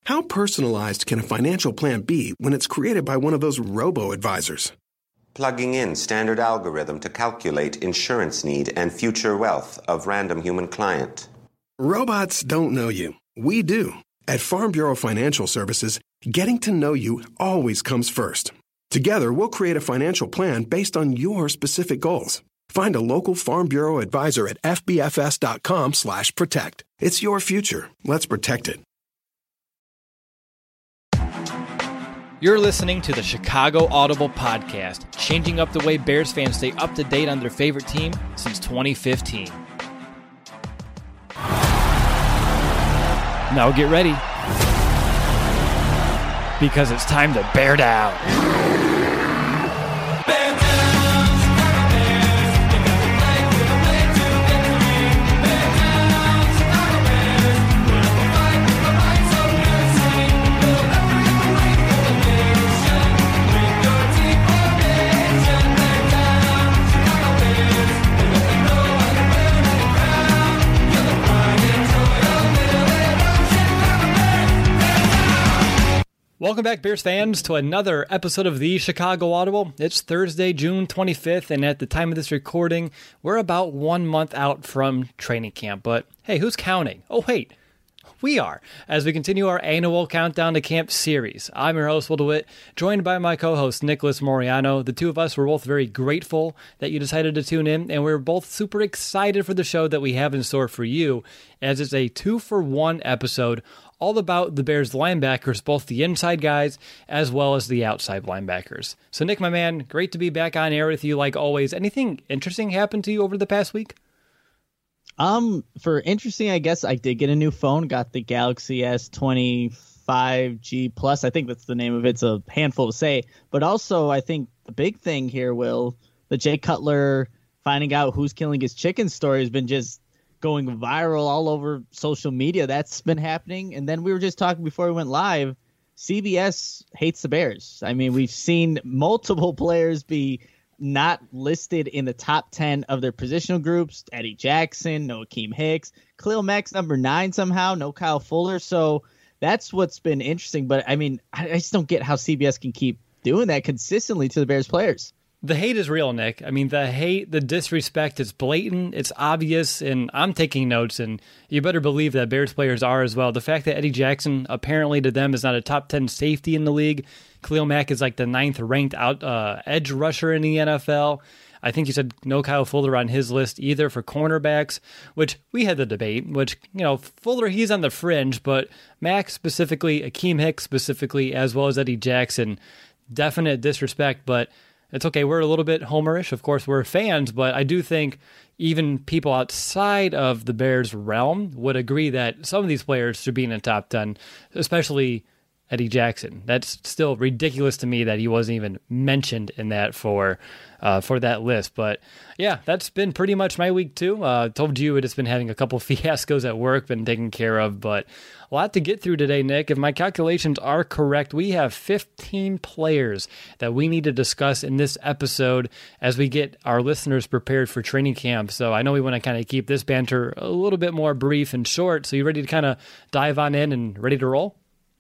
How personalized can a financial plan be when it's created by one of those robo-advisors? Plugging in standard algorithm to calculate insurance need and future wealth of random human client. Robots don't know you. We do. At Farm Bureau Financial Services, getting to know you always comes first. Together, we'll create a financial plan based on your specific goals. Find a local Farm Bureau advisor at fbfs.com/protect. It's your future. Let's protect it. You're listening to the Chicago Audible Podcast, changing up the way Bears fans stay up to date on their favorite team since 2015. Now get ready, because it's time to bear down. Welcome back, Bears fans, to another episode of the Chicago Audible. It's Thursday, June 25th, and at the time of this recording, we're about 1 month out from training camp. But hey, who's counting? Oh, wait, we are, as we continue our annual Countdown to Camp series. I'm your host, Will DeWitt, joined by my co-host, Nicholas Moriano. The two of us were both very grateful that you decided to tune in, and we're both super excited for the show that we have in store for you, as it's a 2-for-1 episode all about the Bears linebackers, both the inside guys as well as the outside linebackers. So Nick, my man, great to be back on air with you like always. Anything interesting happened to you over the past week? For interesting, I guess I did get a new phone, got the Galaxy S25G Plus. I think that's the name of it. It's a handful to say. But also, I think the big thing here, Will, the Jay Cutler finding out who's killing his chicken story has been just going viral all over social media. That's been happening. And then we were just talking before we went live, CBS hates the Bears. I mean, we've seen multiple players be not listed in the top 10 of their positional groups. Eddie Jackson, no Akeem Hicks, Khalil Mack's number 9 somehow, no Kyle Fuller. So that's what's been interesting. But I mean, I just don't get how CBS can keep doing that consistently to the Bears players. The hate is real, Nick. I mean, the hate, the disrespect, it's blatant, it's obvious, and I'm taking notes, and you better believe that Bears players are as well. The fact that Eddie Jackson, apparently to them, is not a top 10 safety in the league. Khalil Mack is like the 9th ranked edge rusher in the NFL. I think you said no Kyle Fuller on his list either for cornerbacks, which we had the debate, which, you know, Fuller, he's on the fringe, but Mack specifically, Akeem Hicks specifically, as well as Eddie Jackson, definite disrespect, but it's okay. We're a little bit homerish. Of course, we're fans, but I do think even people outside of the Bears realm would agree that some of these players should be in the top 10, especially Eddie Jackson. That's still ridiculous to me that he wasn't even mentioned in that for that list. But yeah, that's been pretty much my week too. Told you it has been having a couple fiascos at work, been taken care of, but a lot to get through today, Nick. If my calculations are correct, we have 15 players that we need to discuss in this episode as we get our listeners prepared for training camp. So I know we want to kind of keep this banter a little bit more brief and short. So you ready to kind of dive on in and ready to roll?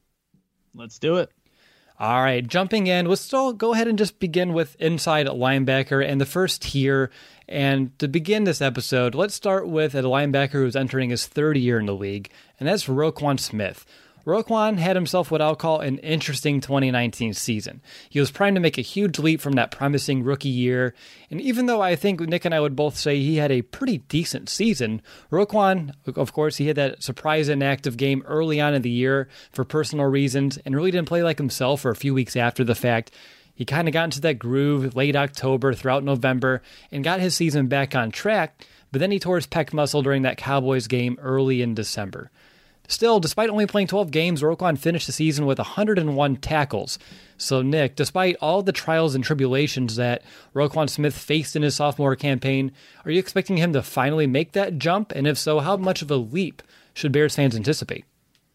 Let's do it. All right, jumping in, let's still go ahead and just begin with inside linebacker and the first tier. And to begin this episode, let's start with a linebacker who's entering his third year in the league, and that's Roquan Smith. Roquan had himself what I'll call an interesting 2019 season. He was primed to make a huge leap from that promising rookie year, and even though I think Nick and I would both say he had a pretty decent season, Roquan, of course, he had that surprise inactive game early on in the year for personal reasons and really didn't play like himself for a few weeks after the fact. He kind of got into that groove late October throughout November and got his season back on track, but then he tore his pec muscle during that Cowboys game early in December. Still, despite only playing 12 games, Roquan finished the season with 101 tackles. So, Nick, despite all the trials and tribulations that Roquan Smith faced in his sophomore campaign, are you expecting him to finally make that jump? And if so, how much of a leap should Bears fans anticipate?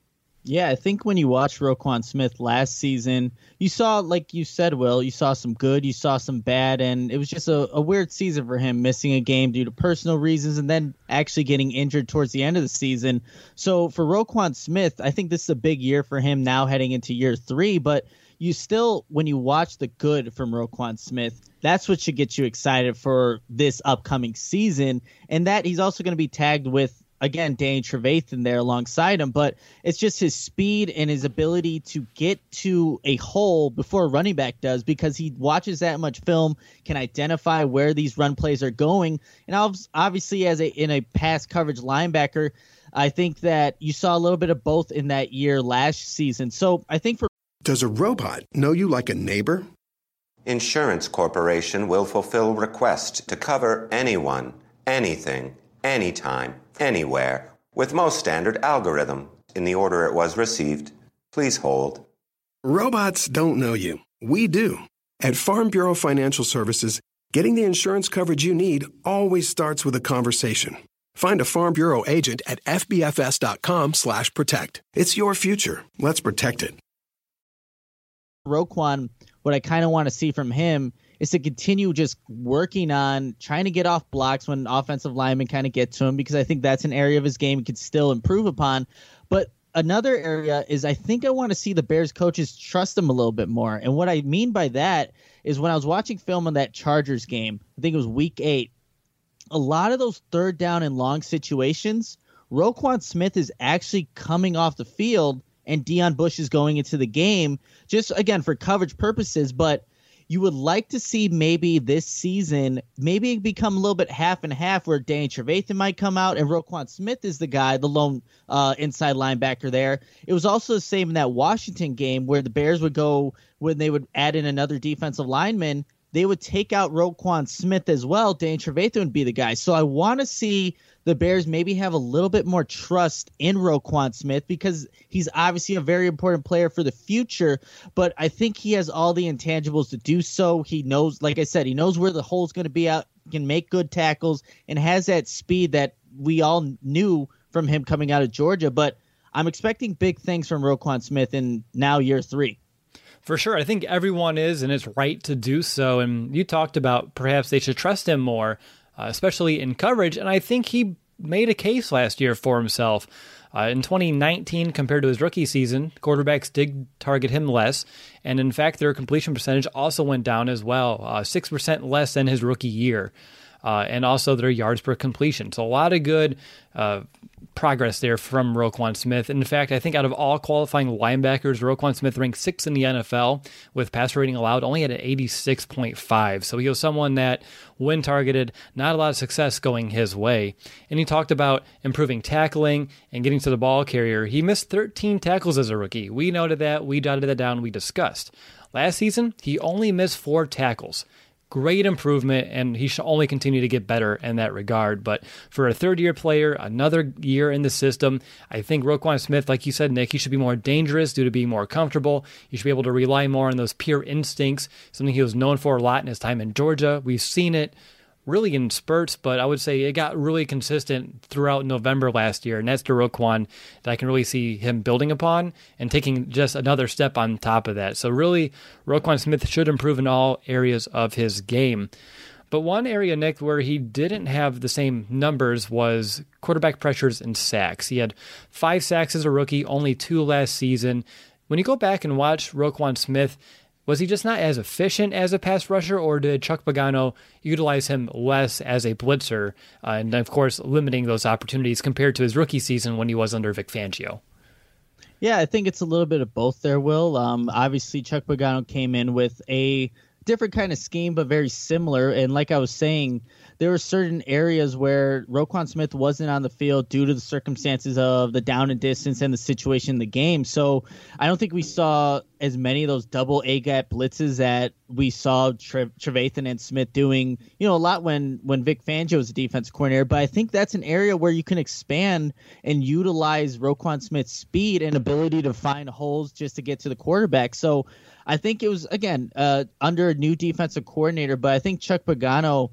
Yeah, I think when you watched Roquan Smith last season, you saw, like you said, Will, you saw some good, you saw some bad, and it was just a weird season for him, missing a game due to personal reasons and then actually getting injured towards the end of the season. So for Roquan Smith, I think this is a big year for him now heading into year 3, but you still, when you watch the good from Roquan Smith, that's what should get you excited for this upcoming season, and that he's also going to be tagged with, again, Danny Trevathan there alongside him, but it's just his speed and his ability to get to a hole before a running back does, because he watches that much film, can identify where these run plays are going. And obviously, in a pass coverage linebacker, I think that you saw a little bit of both in that year last season. So I think for Does a robot know you like a neighbor? Insurance Corporation will fulfill requests to cover anyone, anything, anytime, anywhere, with most standard algorithm in the order it was received. Please hold. Robots don't know you. We do. At Farm Bureau Financial Services, getting the insurance coverage you need always starts with a conversation. Find a Farm Bureau agent at fbfs.com/protect. It's your future. Let's protect it. Roquan, what I kind of want to see from him is to continue just working on trying to get off blocks when offensive linemen kind of get to him, because I think that's an area of his game he could still improve upon. But another area is I think I want to see the Bears coaches trust him a little bit more. And what I mean by that is when I was watching film on that Chargers game, I think it was week 8, a lot of those third down and long situations, Roquan Smith is actually coming off the field and Deion Bush is going into the game, just, again, for coverage purposes. But you would like to see maybe this season, maybe it become a little bit half and half, where Danny Trevathan might come out and Roquan Smith is the guy, the lone inside linebacker there. It was also the same in that Washington game where the Bears would go, when they would add in another defensive lineman, they would take out Roquan Smith as well. Danny Trevathan would be the guy. So I want to see the Bears maybe have a little bit more trust in Roquan Smith, because he's obviously a very important player for the future, but I think he has all the intangibles to do so. He knows, like I said, he knows where the hole's going to be out, can make good tackles, and has that speed that we all knew from him coming out of Georgia. But I'm expecting big things from Roquan Smith in now year 3. For sure. I think everyone is, and it's right to do so. And you talked about perhaps they should trust him more, especially in coverage. And I think he made a case last year for himself. In 2019, compared to his rookie season, quarterbacks did target him less. And in fact, their completion percentage also went down as well, 6% less than his rookie year. And also their yards per completion. So a lot of good progress there from Roquan Smith. In fact, I think out of all qualifying linebackers, Roquan Smith ranked 6th in the NFL with passer rating allowed, only at an 86.5. So he was someone that, when targeted, not a lot of success going his way. And he talked about improving tackling and getting to the ball carrier. He missed 13 tackles as a rookie. We noted that. We jotted that down. We discussed. Last season, he only missed 4 tackles. Great improvement, and he should only continue to get better in that regard. But for a third-year player, another year in the system, I think Roquan Smith, like you said, Nick, he should be more dangerous due to being more comfortable. He should be able to rely more on those pure instincts, something he was known for a lot in his time in Georgia. We've seen it really in spurts, but I would say it got really consistent throughout November last year, and that's the Roquan that I can really see him building upon and taking just another step on top of that. So really, Roquan Smith should improve in all areas of his game. But one area, Nick, where he didn't have the same numbers was quarterback pressures and sacks. He had 5 sacks as a rookie, only 2 last season. When you go back and watch Roquan Smith, was he just not as efficient as a pass rusher, or did Chuck Pagano utilize him less as a blitzer, and of course limiting those opportunities compared to his rookie season when he was under Vic Fangio? Yeah, I think it's a little bit of both there, Will. Obviously, Chuck Pagano came in with a different kind of scheme, but very similar. And like I was saying, there were certain areas where Roquan Smith wasn't on the field due to the circumstances of the down and distance and the situation in the game. So I don't think we saw as many of those double A-gap blitzes that we saw Trevathan and Smith doing, a lot when Vic Fangio was a defense coordinator. But I think that's an area where you can expand and utilize Roquan Smith's speed and ability to find holes just to get to the quarterback. So I think it was, again, under a new defensive coordinator, but I think Chuck Pagano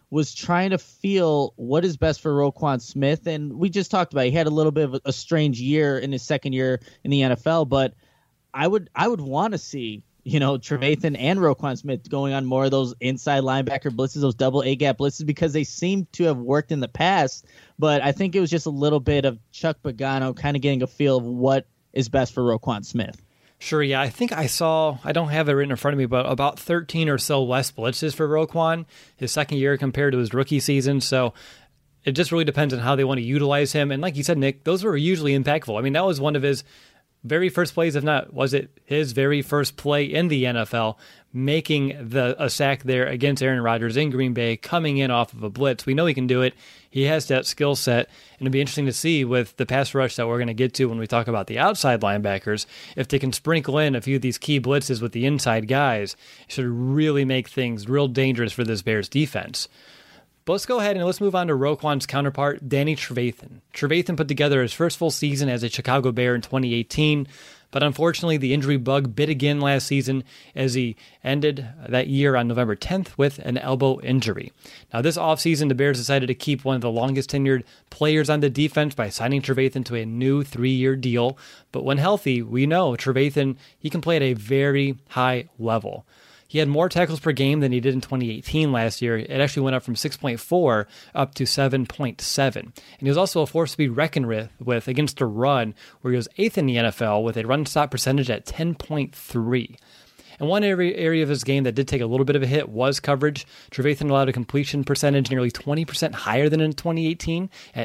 was trying to feel what is best for Roquan Smith. And we just talked about, he had a little bit of a strange year in his second year in the NFL, but I would want to see, Trevathan and Roquan Smith going on more of those inside linebacker blitzes, those double A-gap blitzes, because they seem to have worked in the past. But I think it was just a little bit of Chuck Pagano kind of getting a feel of what is best for Roquan Smith. Sure, yeah. I think I don't have it written in front of me, but about 13 or so less blitzes for Roquan his second year compared to his rookie season. So it just really depends on how they want to utilize him. And like you said, Nick, those were usually impactful. I mean, that was one of his very first plays, if not, was it his very first play in the NFL, making a sack there against Aaron Rodgers in Green Bay, coming in off of a blitz. We know he can do it. He has that skill set, and it'll be interesting to see with the pass rush that we're going to get to when we talk about the outside linebackers, if they can sprinkle in a few of these key blitzes with the inside guys. It should really make things real dangerous for this Bears defense. But let's go ahead and let's move on to Roquan's counterpart, Danny Trevathan. Trevathan put together his first full season as a Chicago Bear in 2018, but unfortunately the injury bug bit again last season as he ended that year on November 10th with an elbow injury. Now this offseason, the Bears decided to keep one of the longest tenured players on the defense by signing Trevathan to a new 3-year deal. But when healthy, we know Trevathan, he can play at a very high level. He had more tackles per game than he did in 2018 last year. It actually went up from 6.4 up to 7.7. And he was also a force to be reckoned with against the run, where he was 8th in the NFL with a run stop percentage at 10.3. And one area of his game that did take a little bit of a hit was coverage. Trevathan allowed a completion percentage nearly 20% higher than in 2018 at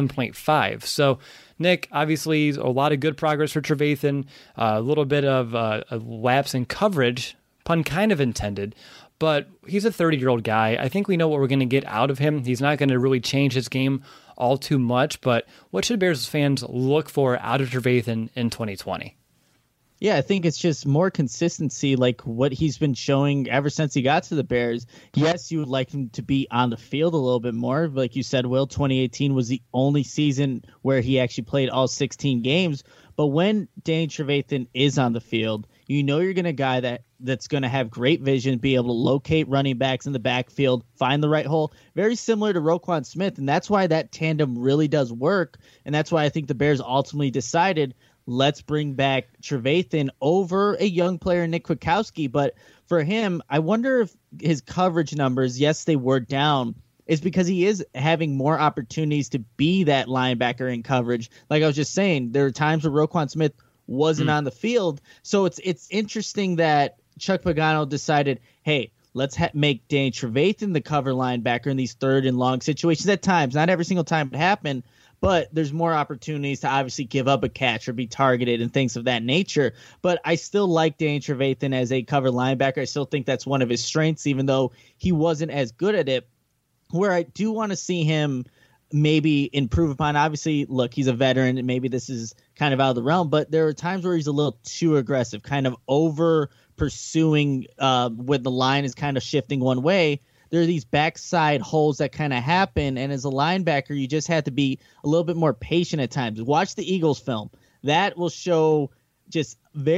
87.5. So, Nick, obviously a lot of good progress for Trevathan, a little bit of a lapse in coverage, pun kind of intended, but he's a 30-year-old guy. I think we know what we're going to get out of him. He's not going to really change his game all too much, but what should Bears fans look for out of Trevathan in 2020? Yeah, I think it's just more consistency, like what he's been showing ever since he got to the Bears. Yes, you would like him to be on the field a little bit more. Like you said, Will, 2018 was the only season where he actually played all 16 games. But when Danny Trevathan is on the field, you know you're going to guy that's going to have great vision, be able to locate running backs in the backfield, find the right hole. Very similar to Roquan Smith, and that's why that tandem really does work. And that's why I think the Bears ultimately decided, let's bring back Trevathan over a young player, Nick Kwiatkowski. But for him, I wonder if his coverage numbers, yes, they were down, is because he is having more opportunities to be that linebacker in coverage. Like I was just saying, there are times where Roquan Smith wasn't on the field. So it's interesting that Chuck Pagano decided, hey, let's make Danny Trevathan the cover linebacker in these third and long situations at times. Not every single time it happened, but there's more opportunities to obviously give up a catch or be targeted and things of that nature. But I still like Danny Trevathan as a cover linebacker. I still think that's one of his strengths, even though he wasn't as good at it. Where I do want to see him maybe improve upon, obviously, look, he's a veteran and maybe this is kind of out of the realm, but there are times where he's a little too aggressive, kind of over pursuing when the line is kind of shifting one way. There are these backside holes that kind of happen, and as a linebacker, you just have to be a little bit more patient at times. Watch the Eagles film. That will show just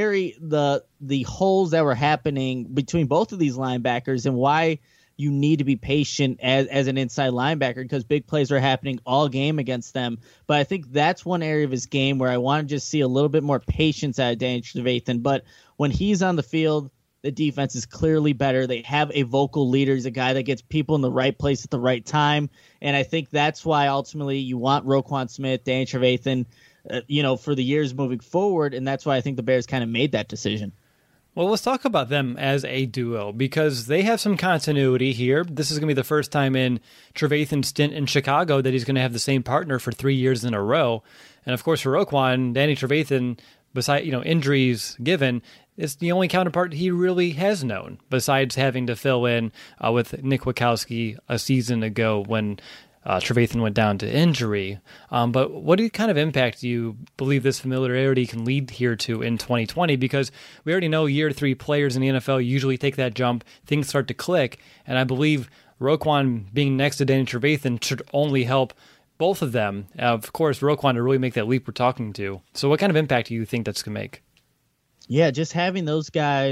the holes that were happening between both of these linebackers and why you need to be patient as an inside linebacker, because big plays are happening all game against them. But I think that's one area of his game where I want to just see a little bit more patience out of Danny Trevathan. But when he's on the field, the defense is clearly better. They have a vocal leader. He's a guy that gets people in the right place at the right time. And I think that's why ultimately you want Roquan Smith, Danny Trevathan, for the years moving forward. And that's why I think the Bears kind of made that decision. Well, let's talk about them as a duo because they have some continuity here. This is going to be the first time in Trevathan's stint in Chicago that he's going to have the same partner for 3 years in a row. And of course, for Roquan, Danny Trevathan, besides injuries given, it's the only counterpart he really has known, besides having to fill in with Nick Kwiatkowski a season ago when Trevathan went down to injury. But what kind of impact do you believe this familiarity can lead here to in 2020? Because we already know year 3 players in the NFL usually take that jump, things start to click, and I believe Roquan being next to Danny Trevathan should only help both of them. Of course, Roquan to really make that leap we're talking to. So what kind of impact do you think that's going to make? Yeah, just having those guys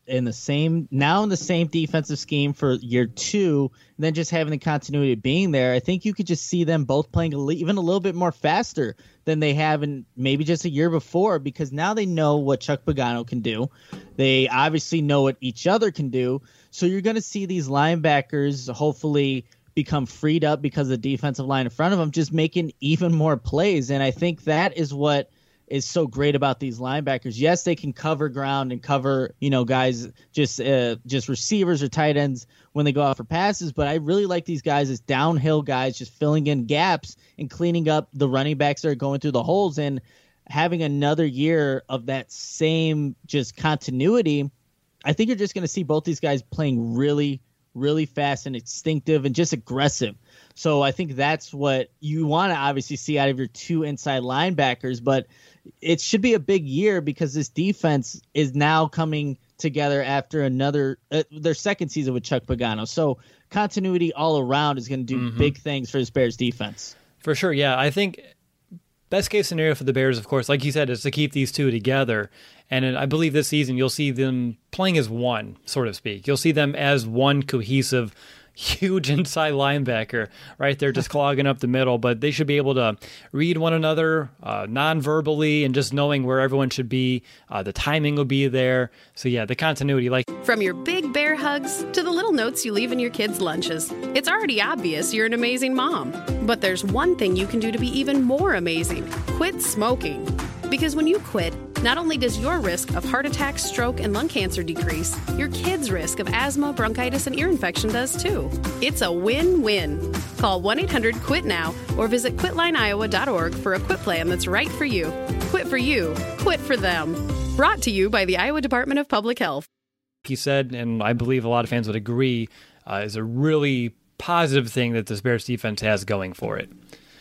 in the same defensive scheme for year 2, and then just having the continuity of being there, I think you could just see them both playing even a little bit more faster than they have in maybe just a year before, because now they know what Chuck Pagano can do. They obviously know what each other can do. So you're going to see these linebackers hopefully become freed up because of the defensive line in front of them, just making even more plays. And I think that is what is so great about these linebackers. Yes, they can cover ground and cover, guys, just receivers or tight ends when they go out for passes. But I really like these guys as downhill guys, just filling in gaps and cleaning up the running backs that are going through the holes, and having another year of that same just continuity. I think you're just going to see both these guys playing really, really fast and instinctive and just aggressive. So I think that's what you want to obviously see out of your 2 inside linebackers, but it should be a big year because this defense is now coming together after their second season with Chuck Pagano. So continuity all around is going to do big things for this Bears defense. For sure, yeah. I think best case scenario for the Bears, of course, like you said, is to keep these 2 together. And I believe this season you'll see them playing as one, so to speak. You'll see them as one cohesive, huge inside linebacker right there just clogging up the middle, but they should be able to read one another non-verbally and just knowing where everyone should be. The timing will be there. So yeah, the continuity. From your big bear hugs to the little notes you leave in your kids' lunches, it's already obvious you're an amazing mom. But there's one thing you can do to be even more amazing. Quit smoking. Because when you quit, not only does your risk of heart attack, stroke, and lung cancer decrease, your kids' risk of asthma, bronchitis, and ear infection does too. It's a win-win. Call 1-800-QUIT-NOW or visit quitlineiowa.org for a quit plan that's right for you. Quit for you. Quit for them. Brought to you by the Iowa Department of Public Health. He said, and I believe a lot of fans would agree, is a really positive thing that this Bears defense has going for it.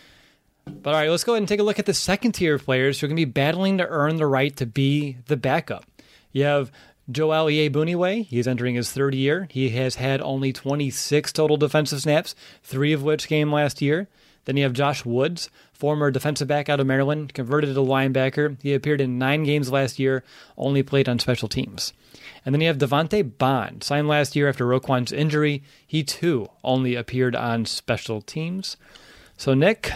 But all right, let's go ahead and take a look at the second tier of players who are going to be battling to earn the right to be the backup. You have Joel Iyiegbuniwe. He's entering his third year. He has had only 26 total defensive snaps, 3 of which came last year. Then you have Josh Woods, former defensive back out of Maryland, converted to linebacker. He appeared in 9 games last year, only played on special teams. And then you have Devontae Bond, signed last year after Roquan's injury. He too only appeared on special teams. So Nick,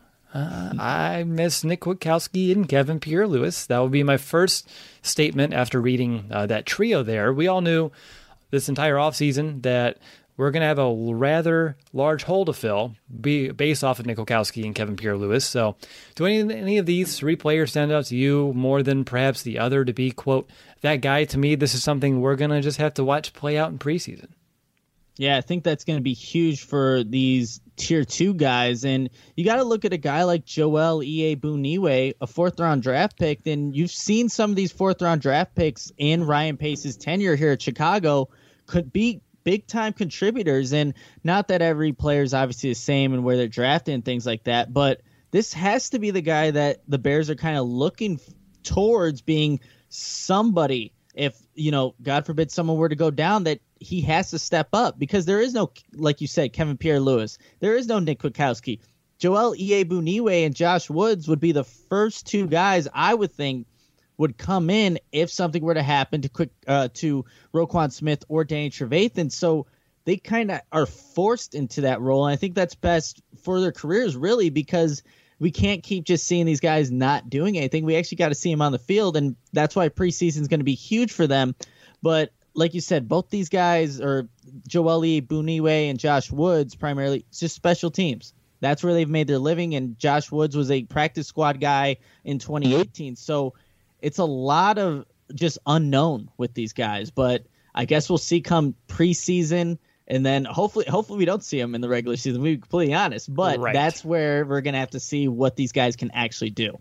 I miss Nick Kwiatkowski and Kevin Pierre-Louis. That would be my first statement after reading that trio there. We all knew this entire offseason that we're going to have a rather large hole to fill based off of Nick Kwiatkowski and Kevin Pierre-Louis. So do any of these 3 players stand out to you more than perhaps the other to be, quote, that guy? To me, this is something we're going to just have to watch play out in preseason. Yeah, I think that's going to be huge for these tier 2 guys. And you got to look at a guy like Joel Iyiegbuniwe, a 4th-round draft pick. And you've seen some of these 4th-round draft picks in Ryan Pace's tenure here at Chicago could be big-time contributors. And not that every player is obviously the same and where they're drafted and things like that, but this has to be the guy that the Bears are kind of looking towards being somebody. If, God forbid someone were to go down, that he has to step up, because there is no, like you said, Kevin Pierre-Louis. There is no Nick Kwiatkowski. Joel Iyiegbuniwe and Josh Woods would be the first 2 guys I would think would come in if something were to happen to Roquan Smith or Danny Trevathan. So they kind of are forced into that role. And I think that's best for their careers, really, because we can't keep just seeing these guys not doing anything. We actually got to see them on the field, and that's why preseason is going to be huge for them. But like you said, both these guys, or Joel Iyiegbuniwe and Josh Woods primarily, it's just special teams. That's where they've made their living, and Josh Woods was a practice squad guy in 2018. So it's a lot of just unknown with these guys. But I guess we'll see come preseason. And then hopefully we don't see them in the regular season. We'll be completely honest. But That's where we're going to have to see what these guys can actually do.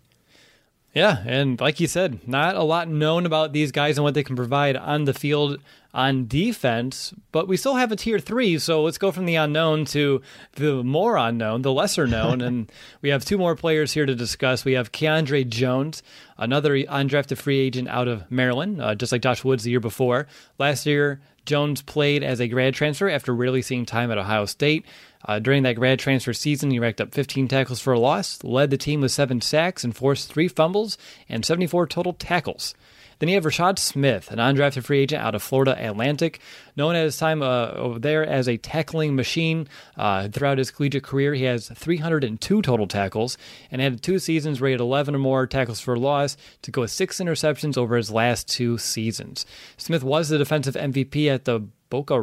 Yeah, and like you said, not a lot known about these guys and what they can provide on the field on defense, but we still have a tier 3, so let's go from the unknown to the more unknown, the lesser known, and we have 2 more players here to discuss. We have Keandre Jones, another undrafted free agent out of Maryland, just like Josh Woods the year before. Last year, Jones played as a grad transfer after rarely seeing time at Ohio State. During that grad transfer season, he racked up 15 tackles for a loss, led the team with 7 sacks, and forced 3 fumbles and 74 total tackles. Then you have Rashad Smith, an undrafted free agent out of Florida Atlantic, known at his time over there as a tackling machine. Throughout his collegiate career, he has 302 total tackles and had 2 seasons where he had 11 or more tackles for loss to go with 6 interceptions over his last 2 seasons. Smith was the defensive MVP at the Boca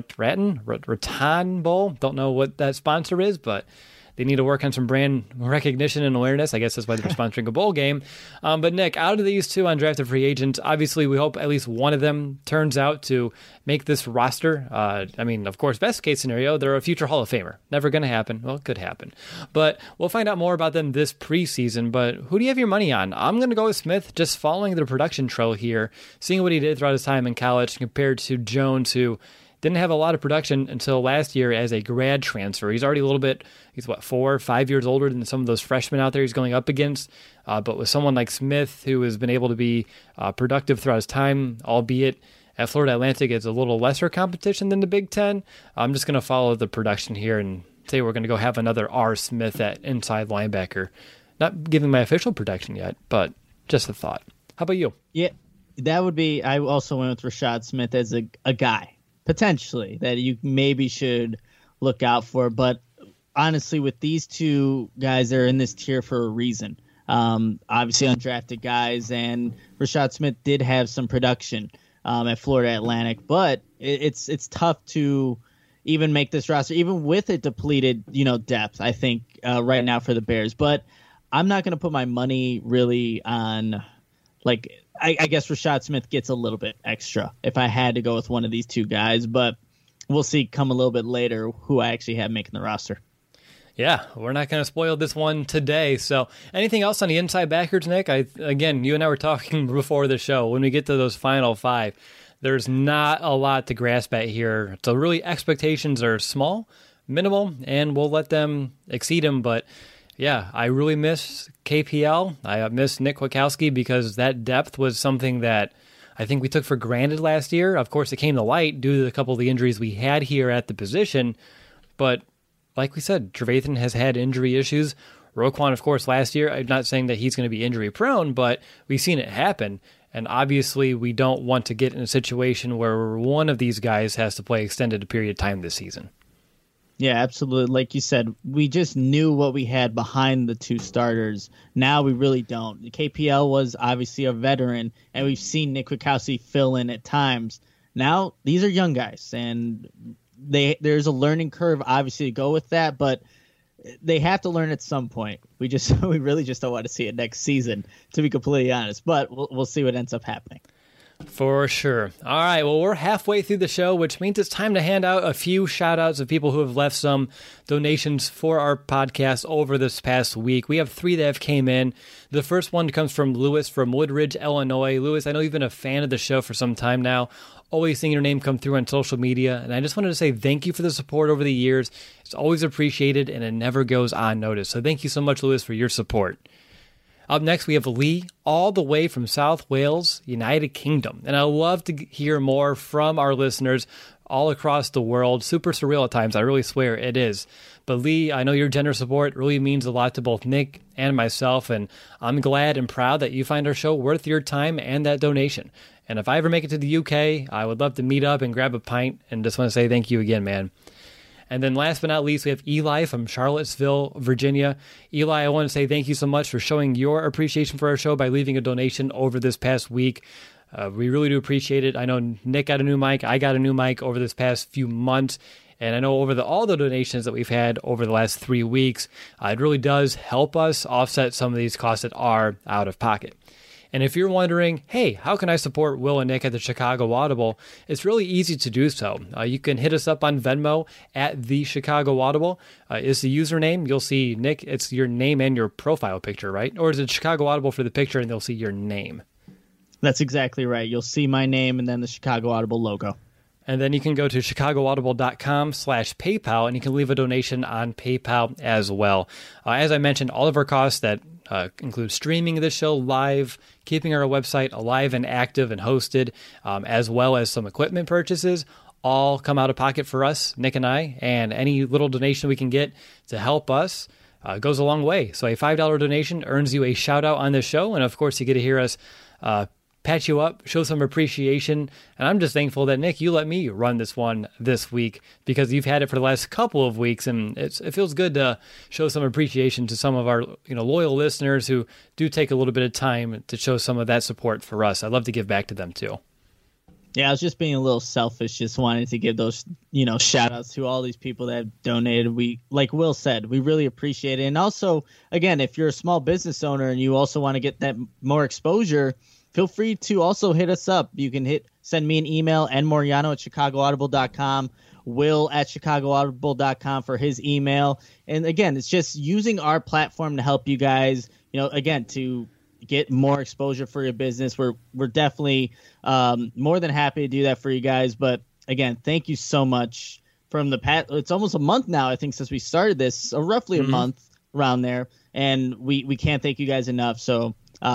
Raton Bowl. Don't know what that sponsor is, but they need to work on some brand recognition and awareness. I guess that's why they're sponsoring a bowl game. But Nick, out of these 2 undrafted free agents, obviously we hope at least one of them turns out to make this roster. Of course, best case scenario, they're a future Hall of Famer. Never going to happen. Well, it could happen. But we'll find out more about them this preseason. But who do you have your money on? I'm going to go with Smith, just following the production trail here, seeing what he did throughout his time in college compared to Jones, who didn't have a lot of production until last year as a grad transfer. He's already he's 4 or 5 years older than some of those freshmen out there he's going up against. But with someone like Smith, who has been able to be productive throughout his time, albeit at Florida Atlantic, it's a little lesser competition than the Big Ten. I'm just going to follow the production here and say we're going to go have another R. Smith at inside linebacker. Not giving my official prediction yet, but just a thought. How about you? Yeah, that would be, I also went with Rashad Smith as a guy, potentially, that you maybe should look out for. But honestly, with these 2 guys, they're in this tier for a reason. Obviously undrafted guys, and Rashad Smith did have some production at Florida Atlantic, but it's tough to even make this roster, even with a depleted, depth, I think, right now for the Bears. But I'm not going to put my money really on, I guess Rashad Smith gets a little bit extra if I had to go with one of these 2 guys, but we'll see come a little bit later who I actually have making the roster. Yeah, we're not going to spoil this one today. So anything else on the inside backers, Nick? Again, you and I were talking before the show. When we get to those final 5, there's not a lot to grasp at here. So really expectations are small, minimal, and we'll let them exceed them. But yeah, I really miss KPL. I miss Nick Kwiatkowski because that depth was something that I think we took for granted last year. Of course, it came to light due to a couple of the injuries we had here at the position. But like we said, Trevathan has had injury issues. Roquan, of course, last year, I'm not saying that he's going to be injury prone, but we've seen it happen. And obviously, we don't want to get in a situation where one of these guys has to play extended period of time this season. Yeah, absolutely. Like you said, we just knew what we had behind the 2 starters. Now we really don't. KPL was obviously a veteran, and we've seen Nick Kwiatkowski fill in at times. Now, these are young guys, and there's a learning curve, obviously, to go with that, but they have to learn at some point. We really just don't want to see it next season, to be completely honest, but we'll see what ends up happening. For sure. All right, well, we're halfway through the show, which means it's time to hand out a few shout-outs of people who have left some donations for our podcast over this past week. We have 3 that have came in. The first one comes from Lewis from Woodridge, Illinois. Lewis, I know you've been a fan of the show for some time now. Always seeing your name come through on social media, and I just wanted to say thank you for the support over the years. It's always appreciated, and it never goes unnoticed. So thank you so much, Lewis, for your support. Up next, we have Lee, all the way from South Wales, United Kingdom. And I love to hear more from our listeners all across the world. Super surreal at times, I really swear it is. But Lee, I know your generous support really means a lot to both Nick and myself, and I'm glad and proud that you find our show worth your time and that donation. And if I ever make it to the UK, I would love to meet up and grab a pint, and just want to say thank you again, man. And then last but not least, we have Eli from Charlottesville, Virginia. Eli, I want to say thank you so much for showing your appreciation for our show by leaving a donation over this past week. We really do appreciate it. I know Nick got a new mic. I got a new mic over this past few months. And I know over all the donations that we've had over the last 3 weeks, it really does help us offset some of these costs that are out of pocket. And if you're wondering, hey, how can I support Will and Nick at the Chicago Audible? It's really easy to do so. You can hit us up on Venmo at the Chicago Audible. Is the username. You'll see, Nick, it's your name and your profile picture, right? Or is it Chicago Audible for the picture and they'll see your name? That's exactly right. You'll see my name and then the Chicago Audible logo. And then you can go to chicagoaudible.com/PayPal, and you can leave a donation on PayPal as well. As I mentioned, all of our costs that include streaming this show live, keeping our website alive and active and hosted, as well as some equipment purchases, all come out of pocket for us, Nick and I, and any little donation we can get to help us goes a long way. So a $5 donation earns you a shout out on this show. And of course, you get to hear us pat you up, show some appreciation. And I'm just thankful that, Nick, you let me run this one this week because you've had it for the last couple of weeks. And it feels good to show some appreciation to some of our loyal listeners who do take a little bit of time to show some of that support for us. I'd love to give back to them too. Yeah, I was just being a little selfish, just wanted to give those, shout outs to all these people that have donated. We, like Will said, we really appreciate it. And also, again, if you're a small business owner and you also want to get that more exposure, feel free to also hit us up. You can send me an email, nmoriano@chicagoaudible.com, will@chicagoaudible.com for his email. And again, it's just using our platform to help you guys, again, to get more exposure for your business. We're definitely more than happy to do that for you guys. But again, thank you so much. From the it's almost a month now, I think, since we started this, roughly a month around there, and we can't thank you guys enough. So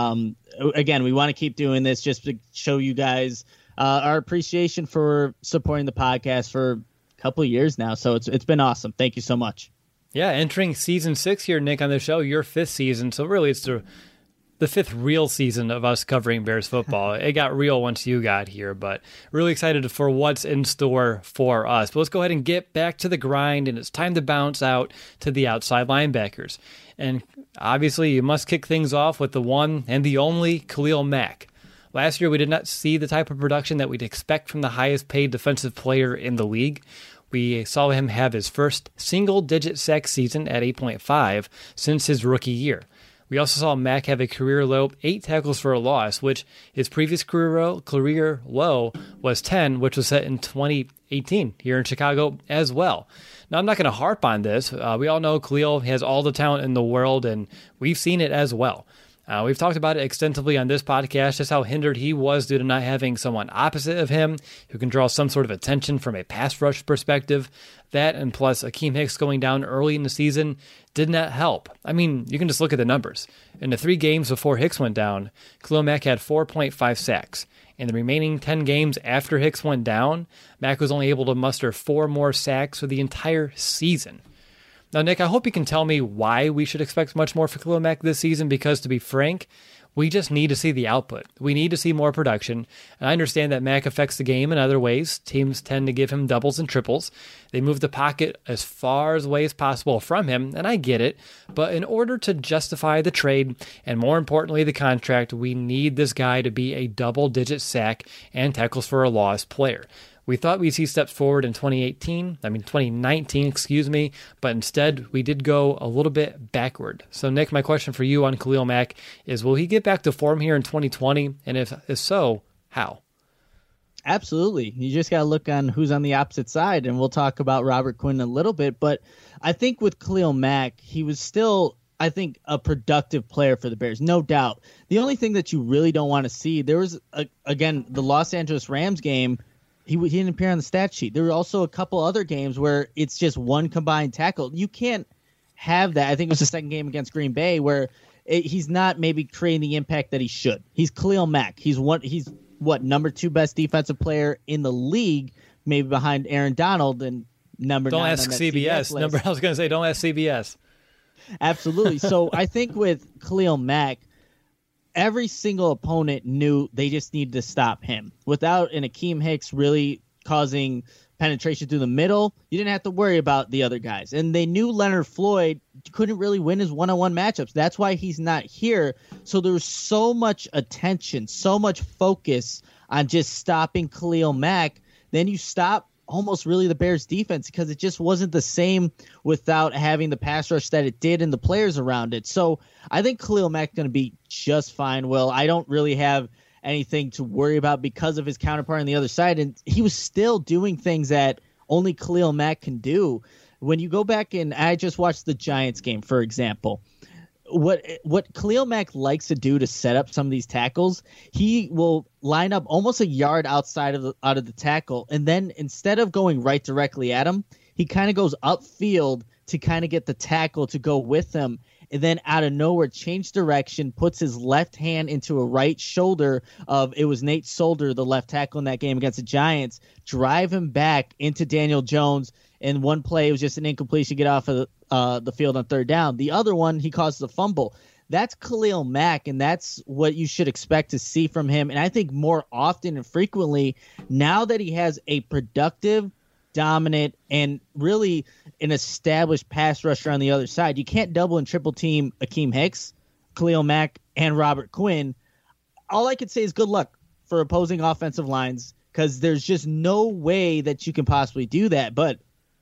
again, we want to keep doing this just to show you guys our appreciation for supporting the podcast for a couple of years now. So it's been awesome. Thank you so much. Yeah, entering season 6 here, Nick, on the show, your 5th season. So really, it's the 5th real season of us covering Bears football. It got real once you got here, but really excited for what's in store for us. But let's go ahead and get back to the grind, and it's time to bounce out to the outside linebackers. And obviously, you must kick things off with the one and the only Khalil Mack. Last year, we did not see the type of production that we'd expect from the highest paid defensive player in the league. We saw him have his first single-digit sack season at 8.5 since his rookie year. We also saw Mack have a career-low 8 tackles for a loss, which his previous career low was 10, which was set in 2018 here in Chicago as well. Now, I'm not going to harp on this. We all know Khalil has all the talent in the world, and we've seen it as well. We've talked about it extensively on this podcast, just how hindered he was due to not having someone opposite of him who can draw some sort of attention from a pass rush perspective. That, and plus Akeem Hicks going down early in the season, did not help. I mean, you can just look at the numbers. In the 3 games before Hicks went down, Khalil Mack had 4.5 sacks. In the remaining 10 games after Hicks went down, Mack was only able to muster 4 more sacks for the entire season. Now, Nick, I hope you can tell me why we should expect much more for Khalil Mack this season, because to be frank, we just need to see the output. We need to see more production. And I understand that Mack affects the game in other ways. Teams tend to give him doubles and triples. They move the pocket as far away as possible from him, and I get it. But in order to justify the trade, and more importantly the contract, we need this guy to be a double-digit sack and tackles for a loss player. We thought we'd see steps forward in 2019, but instead we did go a little bit backward. So, Nick, my question for you on Khalil Mack is, will he get back to form here in 2020? And if so, how? Absolutely. You just got to look on who's on the opposite side, and we'll talk about Robert Quinn in a little bit. But I think with Khalil Mack, he was still, I think, a productive player for the Bears, no doubt. The only thing that you really don't want to see, there was, again, the Los Angeles Rams game, he didn't appear on the stat sheet. There were also a couple other games where it's just one combined tackle. You can't have that. I think it was the second game against Green Bay where he's not maybe creating the impact that he should. He's Khalil Mack. He's number 2 best defensive player in the league, maybe behind Aaron Donald, and number 9 Don't ask CBS. I was going to say, don't ask CBS. Absolutely. So I think with Khalil Mack, every single opponent knew they just needed to stop him. Without an Akeem Hicks really causing penetration through the middle, you didn't have to worry about the other guys. And they knew Leonard Floyd couldn't really win his one-on-one matchups. That's why he's not here. So there was so much attention, so much focus on just stopping Khalil Mack. Then you stop almost really the Bears defense, because it just wasn't the same without having the pass rush that it did and the players around it. So I think Khalil Mack is going to be just fine. Will, I don't really have anything to worry about because of his counterpart on the other side. And he was still doing things that only Khalil Mack can do. When you go back, and I just watched the Giants game, for example, what Khalil Mack likes to do to set up some of these tackles, he will line up almost a yard out of the tackle, and then instead of going right directly at him, he kind of goes upfield to kind of get the tackle to go with him. and then out of nowhere changed direction, puts his left hand into a right shoulder of, it was Nate Solder, the left tackle in that game against the Giants, drive him back into Daniel Jones. And one play, it was just an incompletion, get off of the field on third down. The other one, he caused a fumble. That's Khalil Mack, and that's what you should expect to see from him. And I think more often and frequently, now that he has a productive, dominant, and really an established pass rusher on the other side, you can't double and triple team Akeem Hicks, Khalil Mack, and Robert Quinn. All I could say is good luck for opposing offensive lines, because there's just no way that you can possibly do that. But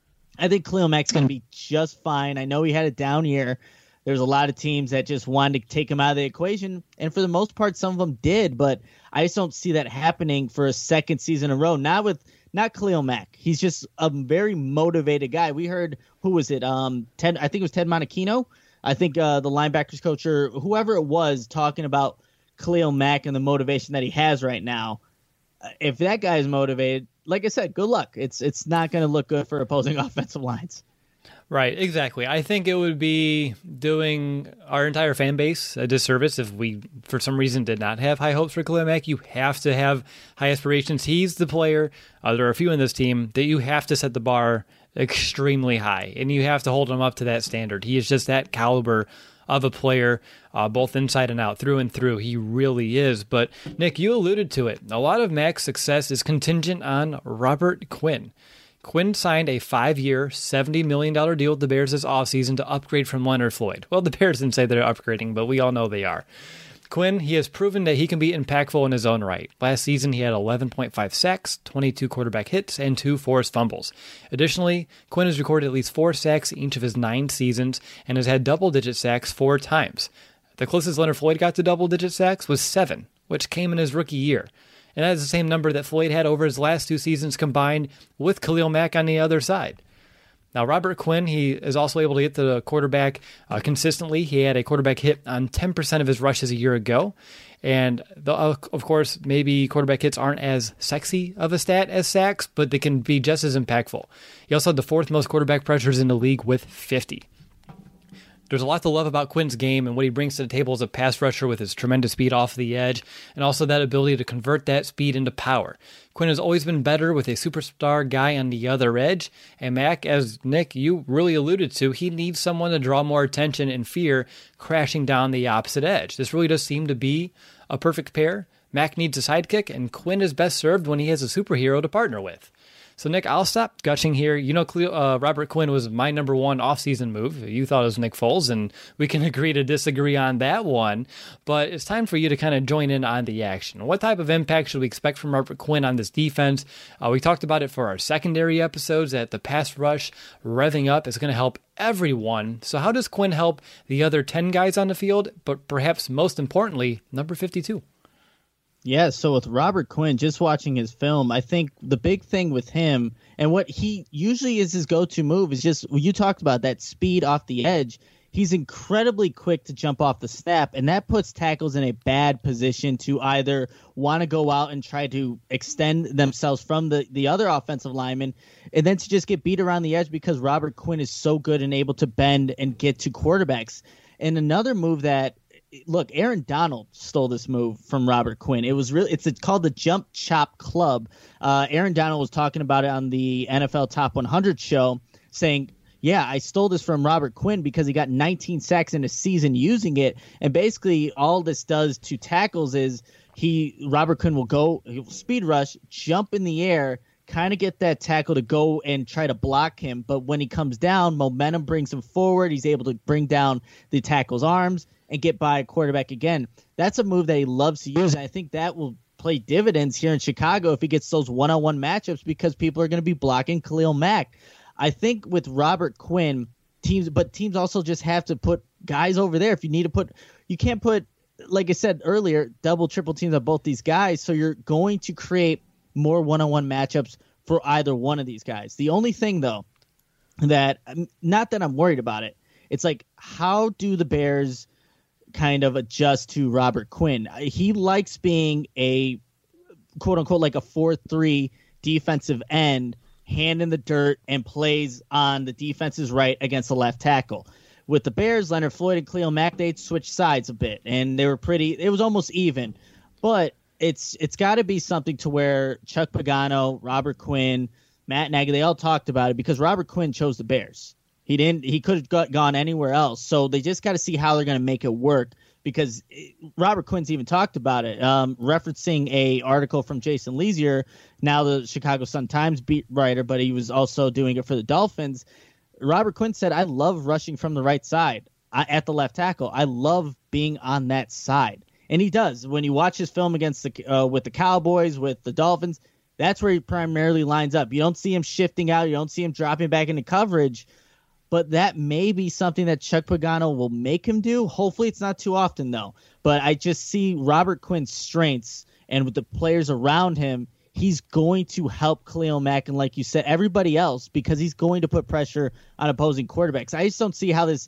I think Khalil Mack's going to be just fine. I know he had a down year. There's a lot of teams that just wanted to take him out of the equation, and for the most part, some of them did, but I just don't see that happening for a second season in a row. Not Khalil Mack. He's just a very motivated guy. We heard, who was it? Ted, I think it was Ted Monachino. I think the linebackers coach or whoever it was talking about Khalil Mack and the motivation that he has right now. If that guy is motivated, like I said, good luck. It's not going to look good for opposing offensive lines. Right, exactly. I think it would be doing our entire fan base a disservice if we, for some reason, did not have high hopes for Khalil Mack. You have to have high aspirations. He's the player, there are a few in this team, that you have to set the bar extremely high, and you have to hold him up to that standard. He is just that caliber of a player, both inside and out, through and through. He really is. But, Nick, you alluded to it. A lot of Mack's success is contingent on Robert Quinn. Quinn signed a 5-year, $70 million deal with the Bears this offseason to upgrade from Leonard Floyd. Well, the Bears didn't say they're upgrading, but we all know they are. Quinn, he has proven that he can be impactful in his own right. Last season, he had 11.5 sacks, 22 quarterback hits, and 2 forced fumbles. Additionally, Quinn has recorded at least 4 sacks in each of his 9 seasons and has had double-digit sacks 4 times. The closest Leonard Floyd got to double-digit sacks was 7, which came in his rookie year. And that is the same number that Floyd had over his last 2 seasons combined with Khalil Mack on the other side. Now, Robert Quinn, he is also able to get the quarterback consistently. He had a quarterback hit on 10% of his rushes a year ago. And, of course, maybe quarterback hits aren't as sexy of a stat as sacks, but they can be just as impactful. He also had the 4th most quarterback pressures in the league with 50. There's a lot to love about Quinn's game and what he brings to the table as a pass rusher with his tremendous speed off the edge and also that ability to convert that speed into power. Quinn has always been better with a superstar guy on the other edge, and Mack, as Nick, you really alluded to, he needs someone to draw more attention and fear crashing down the opposite edge. This really does seem to be a perfect pair. Mack needs a sidekick, and Quinn is best served when he has a superhero to partner with. So, Nick, I'll stop gushing here. You know, Robert Quinn was my number 1 offseason move. You thought it was Nick Foles, and we can agree to disagree on that one. But it's time for you to kind of join in on the action. What type of impact should we expect from Robert Quinn on this defense? We talked about it for our secondary episodes, that the pass rush revving up is going to help everyone. So how does Quinn help the other 10 guys on the field, but perhaps most importantly, number 52? Yeah, so with Robert Quinn, just watching his film, I think the big thing with him and what he usually is his go-to move is just, you talked about that speed off the edge. He's incredibly quick to jump off the snap, and that puts tackles in a bad position to either want to go out and try to extend themselves from the other offensive lineman, and then to just get beat around the edge because Robert Quinn is so good and able to bend and get to quarterbacks. And another move that, look, Aaron Donald stole this move from Robert Quinn. It's called the Jump Chop Club. Aaron Donald was talking about it on the NFL Top 100 show, saying, yeah, I stole this from Robert Quinn because he got 19 sacks in a season using it. And basically all this does to tackles is Robert Quinn will speed rush, jump in the air, kind of get that tackle to go and try to block him. But when he comes down, momentum brings him forward. He's able to bring down the tackle's arms and get by a quarterback again. That's a move that he loves to use, and I think that will play dividends here in Chicago if he gets those one-on-one matchups because people are going to be blocking Khalil Mack. I think with Robert Quinn, teams also just have to put guys over there. If you need to you can't put, like I said earlier, double, triple teams on both these guys, so you're going to create more one-on-one matchups for either one of these guys. The only thing, though, that, not that I'm worried about it, it's like, how do the Bears kind of adjust to Robert Quinn? He likes being a quote unquote like a 4-3 defensive end, hand in the dirt, and plays on the defense's right against the left tackle. with the Bears, Leonard Floyd and Khalil Mack, they'd switch sides a bit, and they were it was almost even. But it's got to be something to where Chuck Pagano, Robert Quinn, Matt Nagy, they all talked about it because Robert Quinn chose the Bears. He could have gone anywhere else. So they just got to see how they're going to make it work because Robert Quinn's even talked about it, referencing a article from Jason Leasier, now the Chicago Sun-Times beat writer, but he was also doing it for the Dolphins. Robert Quinn said, I love rushing from the right side at the left tackle. I love being on that side. And he does. When you watch his film against with the Cowboys, with the Dolphins, that's where he primarily lines up. You don't see him shifting out. You don't see him dropping back into coverage. But that may be something that Chuck Pagano will make him do. Hopefully it's not too often, though. But I just see Robert Quinn's strengths, and with the players around him, he's going to help Khalil Mack and, like you said, everybody else, because he's going to put pressure on opposing quarterbacks. I just don't see how this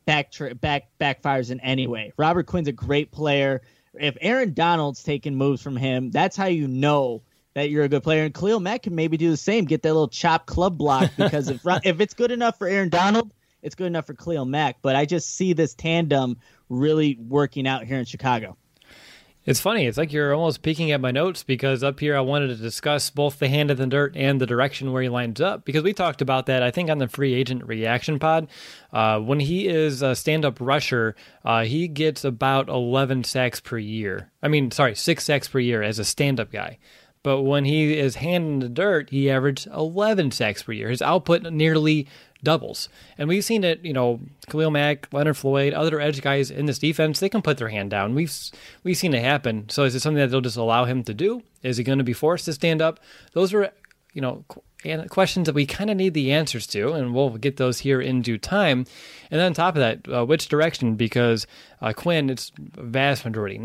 backfires in any way. Robert Quinn's a great player. If Aaron Donald's taking moves from him, that's how you know that you're a good player. And Khalil Mack can maybe do the same, get that little chop club block, because if it's good enough for Aaron Donald, it's good enough for Khalil Mack. But I just see this tandem really working out here in Chicago. It's funny. It's like you're almost peeking at my notes because up here I wanted to discuss both the hand in the dirt and the direction where he lines up, because we talked about that, I think, on the free agent reaction pod. When he is a stand-up rusher, he gets about 11 sacks per year. 6 sacks per year as a stand-up guy. But when he is hand in the dirt, he averaged 11 sacks per year. His output nearly doubles. And we've seen it, Khalil Mack, Leonard Floyd, other edge guys in this defense, they can put their hand down. We've seen it happen. So is it something that they'll just allow him to do? Is he going to be forced to stand up? Those are, questions that we kind of need the answers to, and we'll get those here in due time. And then on top of that, which direction? Because Quinn, it's a vast majority,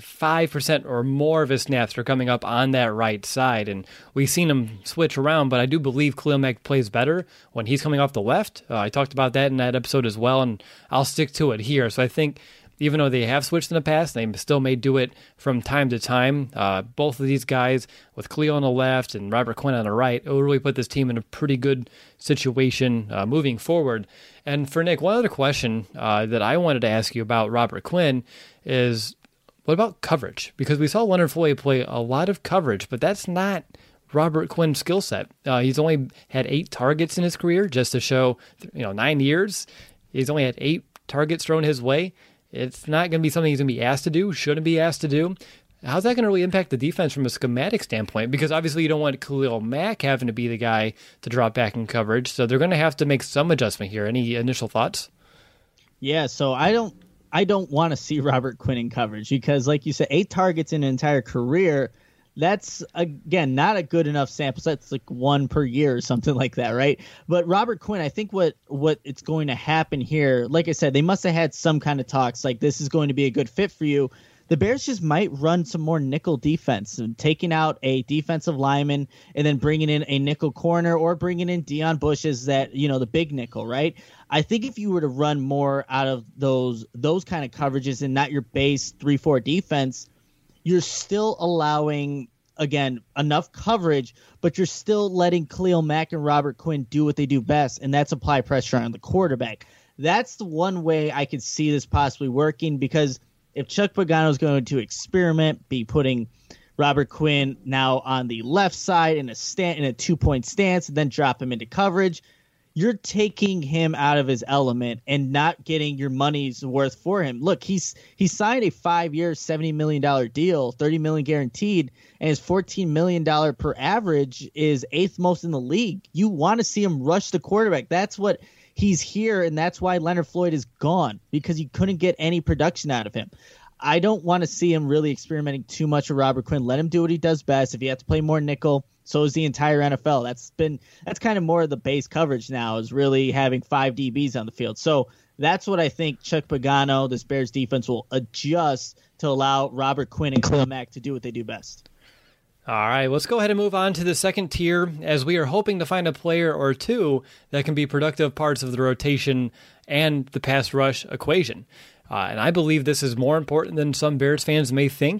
95% or more of his snaps are coming up on that right side, and we've seen him switch around, but I do believe Khalil Mack plays better when he's coming off the left. I talked about that in that episode as well, and I'll stick to it here. So I think even though they have switched in the past, they still may do it from time to time. Both of these guys, with Khalil on the left and Robert Quinn on the right, it will really put this team in a pretty good situation moving forward. And for Nick, one other question that I wanted to ask you about Robert Quinn is, what about coverage? Because we saw Leonard Floyd play a lot of coverage, but that's not Robert Quinn's skill set. He's only had 8 targets in his career, just to show, 9 years. He's only had 8 targets thrown his way. It's not going to be something he's going to be asked to do, shouldn't be asked to do. How's that going to really impact the defense from a schematic standpoint? Because obviously you don't want Khalil Mack having to be the guy to drop back in coverage, so they're going to have to make some adjustment here. Any initial thoughts? Yeah, so I don't want to see Robert Quinn in coverage because, like you said, 8 targets in an entire career, that's, again, not a good enough sample set. It's like 1 per year or something like that, right? But Robert Quinn, I think what it's going to happen here, like I said, they must have had some kind of talks like this is going to be a good fit for you. The Bears just might run some more nickel defense, taking out a defensive lineman and then bringing in a nickel corner or bringing in Deion Bush as that, the big nickel, right? I think if you were to run more out of those kind of coverages and not your base 3-4 defense, you're still allowing, again, enough coverage, but you're still letting Khalil Mack and Robert Quinn do what they do best, and that's apply pressure on the quarterback. That's the one way I could see this possibly working, because if Chuck Pagano is going to experiment, be putting Robert Quinn now on the left side in a 2-point stance and then drop him into coverage, you're taking him out of his element and not getting your money's worth for him. Look, he signed a 5-year, $70 million deal, $30 million guaranteed, and his $14 million per average is 8th most in the league. You want to see him rush the quarterback. That's what he's here, and that's why Leonard Floyd is gone, because you couldn't get any production out of him. I don't want to see him really experimenting too much with Robert Quinn. Let him do what he does best. If he has to play more nickel, so is the entire NFL. That's kind of more of the base coverage now, is really having 5 DBs on the field. So that's what I think Chuck Pagano, this Bears defense, will adjust to allow Robert Quinn and Khalil Mack to do what they do best. All right, let's go ahead and move on to the second tier, as we are hoping to find a player or two that can be productive parts of the rotation and the pass rush equation. And I believe this is more important than some Bears fans may think.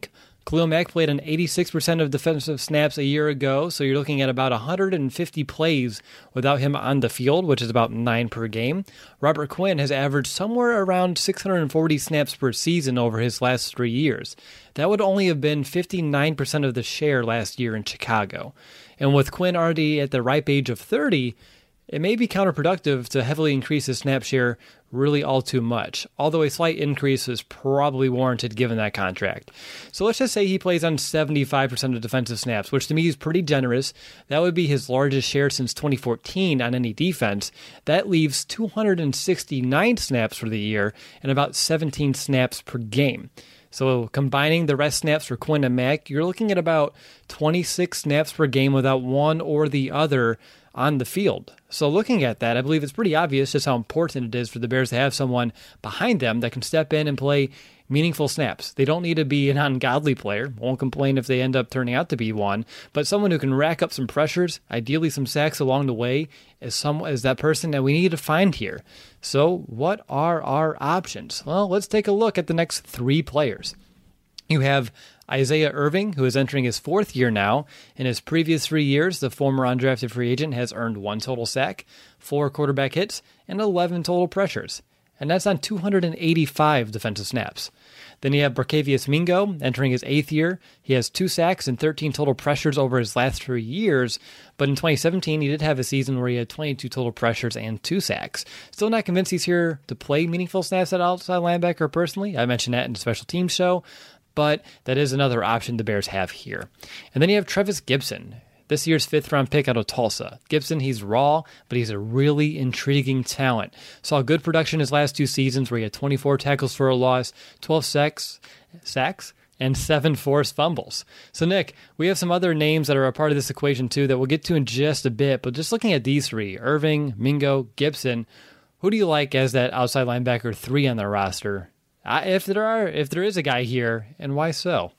Khalil Mack played on 86% of defensive snaps a year ago, so you're looking at about 150 plays without him on the field, which is about 9 per game. Robert Quinn has averaged somewhere around 640 snaps per season over his last 3 years. That would only have been 59% of the share last year in Chicago. And with Quinn already at the ripe age of 30, it may be counterproductive to heavily increase his snap share really all too much, although a slight increase is probably warranted given that contract. So let's just say he plays on 75% of defensive snaps, which to me is pretty generous. That would be his largest share since 2014 on any defense. That leaves 269 snaps for the year and about 17 snaps per game. So combining the rest snaps for Quinn and Mack, you're looking at about 26 snaps per game without one or the other on the field. So looking at that, I believe it's pretty obvious just how important it is for the Bears to have someone behind them that can step in and play meaningful snaps. They don't need to be an ungodly player. Won't complain if they end up turning out to be one, but someone who can rack up some pressures, ideally some sacks along the way, is that person that we need to find here. So what are our options? Well, let's take a look at the next 3 players. You have Isaiah Irving, who is entering his 4th year now. In his previous 3 years, the former undrafted free agent has earned 1 total sack, 4 quarterback hits, and 11 total pressures. And that's on 285 defensive snaps. Then you have Barkevious Mingo entering his 8th year. He has 2 sacks and 13 total pressures over his last 3 years, but in 2017 he did have a season where he had 22 total pressures and 2 sacks. Still not convinced he's here to play meaningful snaps at outside linebacker personally. I mentioned that in the special teams show, but that is another option the Bears have here. And then you have Trevis Gipson, this year's 5th-round pick out of Tulsa. Gipson, he's raw, but he's a really intriguing talent. Saw good production his last 2 seasons where he had 24 tackles for a loss, 12 sacks, and 7 forced fumbles. So, Nick, we have some other names that are a part of this equation, too, that we'll get to in just a bit. But just looking at these 3, Irving, Mingo, Gipson, who do you like as that outside linebacker 3 on the roster? If there is a guy here, and why so?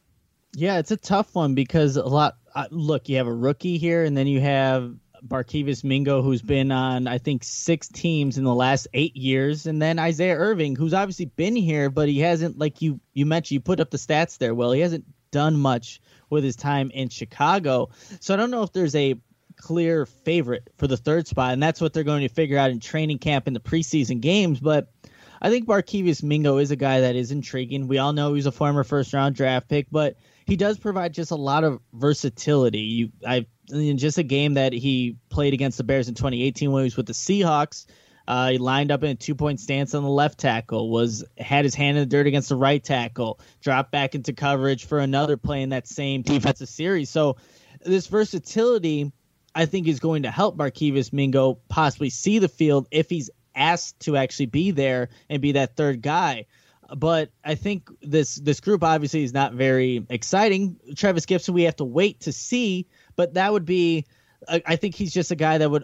Yeah, it's a tough one because look, you have a rookie here, and then you have Barkevious Mingo, who's been on, I think, 6 teams in the last 8 years, and then Isaiah Irving, who's obviously been here, but he hasn't, like you mentioned, you put up the stats there, Will. He hasn't done much with his time in Chicago. So I don't know if there's a clear favorite for the 3rd spot, and that's what they're going to figure out in training camp in the preseason games, but I think Barkevious Mingo is a guy that is intriguing. We all know he's a former 1st-round draft pick, but he does provide just a lot of versatility. In just a game that he played against the Bears in 2018 when he was with the Seahawks, he lined up in a 2-point stance on the left tackle, had his hand in the dirt against the right tackle, dropped back into coverage for another play in that same defensive series. So this versatility, I think, is going to help Barkevious Mingo possibly see the field if he's asked to actually be there and be that 3rd guy. But I think this group obviously is not very exciting. Trevis Gipson, we have to wait to see, but that would be, I think he's just a guy that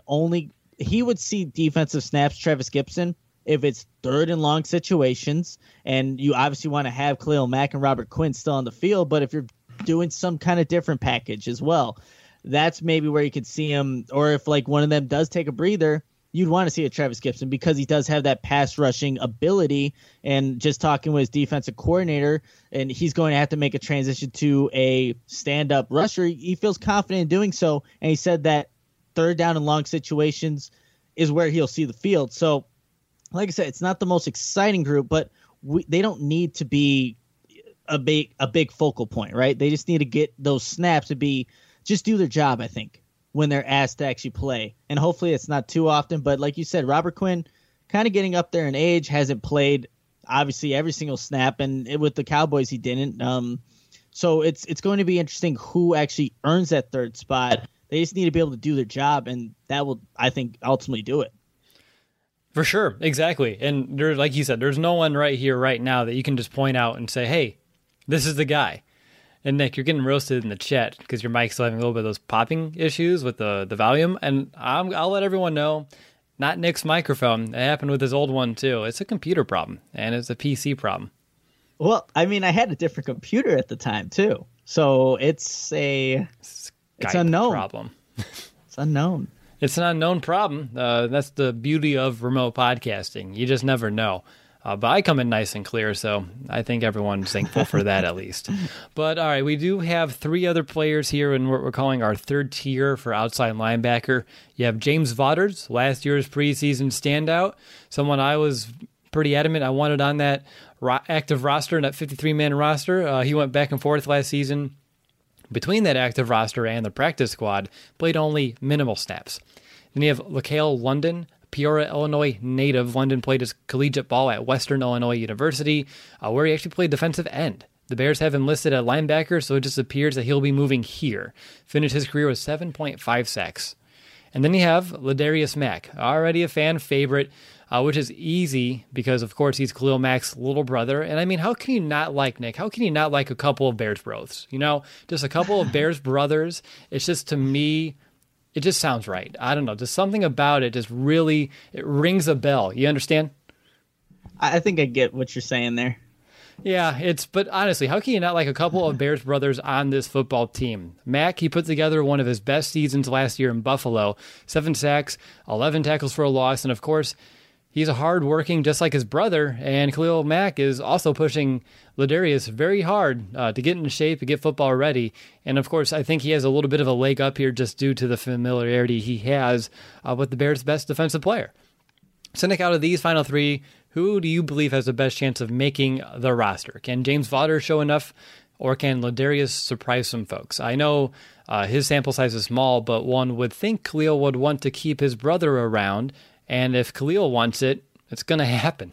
he would see defensive snaps, Trevis Gipson, if it's 3rd and long situations, and you obviously want to have Khalil Mack and Robert Quinn still on the field, but if you're doing some kind of different package as well, that's maybe where you could see him, or if like one of them does take a breather, you'd want to see a Trevis Gipson because he does have that pass rushing ability. And just talking with his defensive coordinator, and he's going to have to make a transition to a stand-up rusher. He feels confident in doing so, and he said that 3rd down and long situations is where he'll see the field. So, like I said, it's not the most exciting group, but they don't need to be a big focal point, right? They just need to get those snaps to just do their job, I think, when they're asked to actually play. And hopefully it's not too often, but like you said, Robert Quinn kind of getting up there in age, hasn't played obviously every single snap, and with the Cowboys he didn't. So it's going to be interesting who actually earns that 3rd spot. They just need to be able to do their job, and that will, I think, ultimately do it. For sure, exactly. And like you said, there's no one right here, right now that you can just point out and say, hey, this is the guy. And Nick, you're getting roasted in the chat because your mic's still having a little bit of those popping issues with the volume. And I'll let everyone know, not Nick's microphone. It happened with his old one too. It's a computer problem, and it's a PC problem. Well, I mean, I had a different computer at the time too, so it's unknown problem. It's unknown. It's an unknown problem. That's the beauty of remote podcasting. You just never know. But I come in nice and clear, so I think everyone's thankful for that at least. But all right, we do have 3 other players here in what we're calling our third tier for outside linebacker. You have James Vaughters, last year's preseason standout, someone I was pretty adamant I wanted on that active roster, that 53-man roster. He went back and forth last season between that active roster and the practice squad, played only minimal snaps. Then you have LaCale London, Peoria, Illinois native. London played his collegiate ball at Western Illinois University, where he actually played defensive end. The Bears have him listed at linebacker, so it just appears that he'll be moving here. Finished his career with 7.5 sacks. And then you have Ladarius Mack, already a fan favorite, which is easy because, of course, he's Khalil Mack's little brother. And I mean, how can you not like Nick? How can you not like a couple of Bears bros? You know, just a couple of Bears brothers. It's just, to me, it just sounds right. I don't know. Just something about it just really, it rings a bell. You understand? I think I get what you're saying there. Yeah, but honestly, how can you not like a couple of Bears brothers on this football team? Mack, he put together one of his best seasons last year in Buffalo. 7 sacks, 11 tackles for a loss, and of course, he's a hard-working, just like his brother, and Khalil Mack is also pushing Ladarius very hard to get in shape, to get football ready. And of course, I think he has a little bit of a leg up here just due to the familiarity he has with the Bears' best defensive player. So Nick, out of these final 3, who do you believe has the best chance of making the roster? Can James Vaughters show enough, or can Ladarius surprise some folks? I know his sample size is small, but one would think Khalil would want to keep his brother around, and if Khalil wants it, it's going to happen.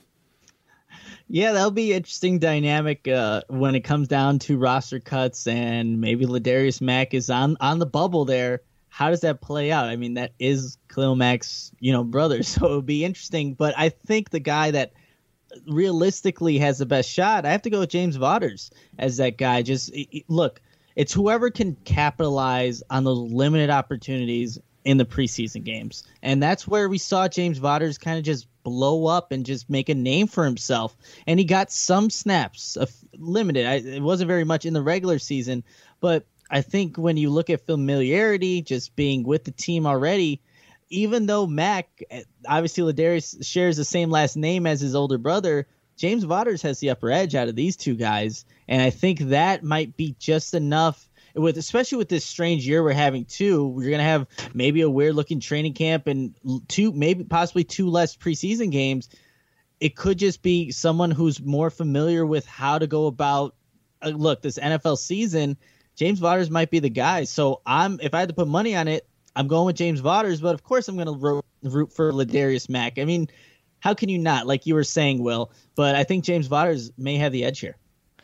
Yeah, that'll be an interesting dynamic when it comes down to roster cuts, and maybe Ladarius Mack is on the bubble there. How does that play out? I mean, that is Khalil Mack's, brother, so it would be interesting. But I think the guy that realistically has the best shot, I have to go with James Vaughters as that guy. Just look, it's whoever can capitalize on those limited opportunities in the preseason games. And that's where we saw James Vaughters kind of just blow up and just make a name for himself. And he got some snaps, limited. It wasn't very much in the regular season, but I think when you look at familiarity, just being with the team already, even though Mack, obviously Ladarius shares the same last name as his older brother, James Vaughters has the upper edge out of these two guys. And I think that might be just enough, especially with this strange year we're having too. We're going to have maybe a weird looking training camp and possibly 2 less preseason games. It could just be someone who's more familiar with how to go about, this NFL season. James Vaughters might be the guy. So if I had to put money on it, I'm going with James Vaughters, but of course I'm going to root for Ladarius Mack. I mean, how can you not, like you were saying, Will? But I think James Vaughters may have the edge here.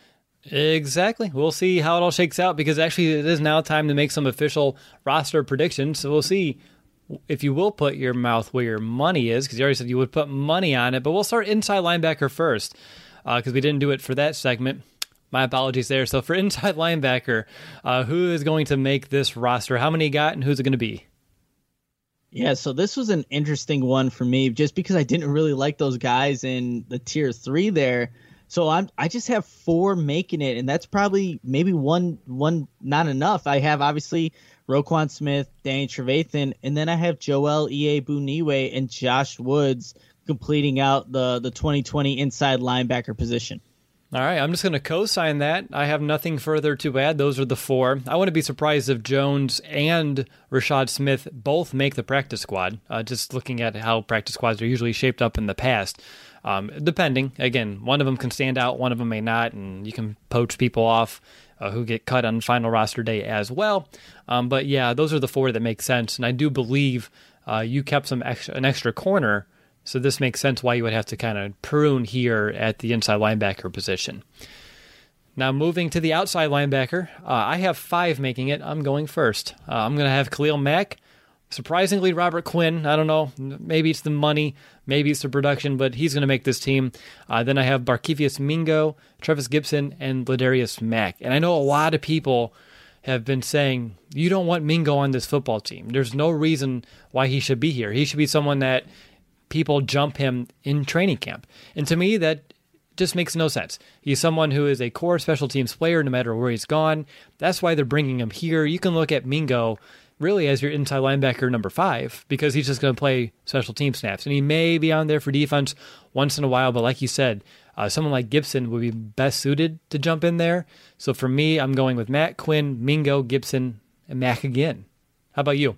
Exactly. We'll see how it all shakes out, because actually it is now time to make some official roster predictions. So we'll see if you will put your mouth where your money is, because you already said you would put money on it. But we'll start inside linebacker first, because we didn't do it for that segment. My apologies there. So for inside linebacker, who is going to make this roster? How many you got, and who's it going to be? Yeah, so this was an interesting one for me, just because I didn't really like those guys in the tier 3 there. So I just have 4 making it, and that's probably maybe one not enough. I have obviously Roquan Smith, Danny Trevathan, and then I have Joel Iyiegbuniwe and Josh Woods completing out the 2020 inside linebacker position. All right, I'm just going to co-sign that. I have nothing further to add. Those are the 4. I wouldn't be surprised if Jones and Rashad Smith both make the practice squad, just looking at how practice squads are usually shaped up in the past. Depending, again, one of them can stand out, one of them may not, and you can poach people off who get cut on final roster day as well. But yeah, those are the 4 that make sense, and I do believe you kept an extra corner. So this makes sense why you would have to kind of prune here at the inside linebacker position. Now moving to the outside linebacker, I have 5 making it. I'm going first. I'm going to have Khalil Mack. Surprisingly, Robert Quinn. I don't know. Maybe it's the money. Maybe it's the production, but he's going to make this team. Then I have Barkevious Mingo, Trevis Gibson, and Ladarius Mack. And I know a lot of people have been saying, you don't want Mingo on this football team. There's no reason why he should be here. He should be someone that people jump him in training camp. And to me, that just makes no sense. He's someone who is a core special teams player no matter where he's gone. That's why they're bringing him here. You can look at Mingo. really as your inside linebacker number 5 because he's just going to play special team snaps. And he may be on there for defense once in a while, but like you said, someone like Gibson would be best suited to jump in there. So for me, I'm going with Mack, Quinn, Mingo, Gibson, and Mack again. How about you?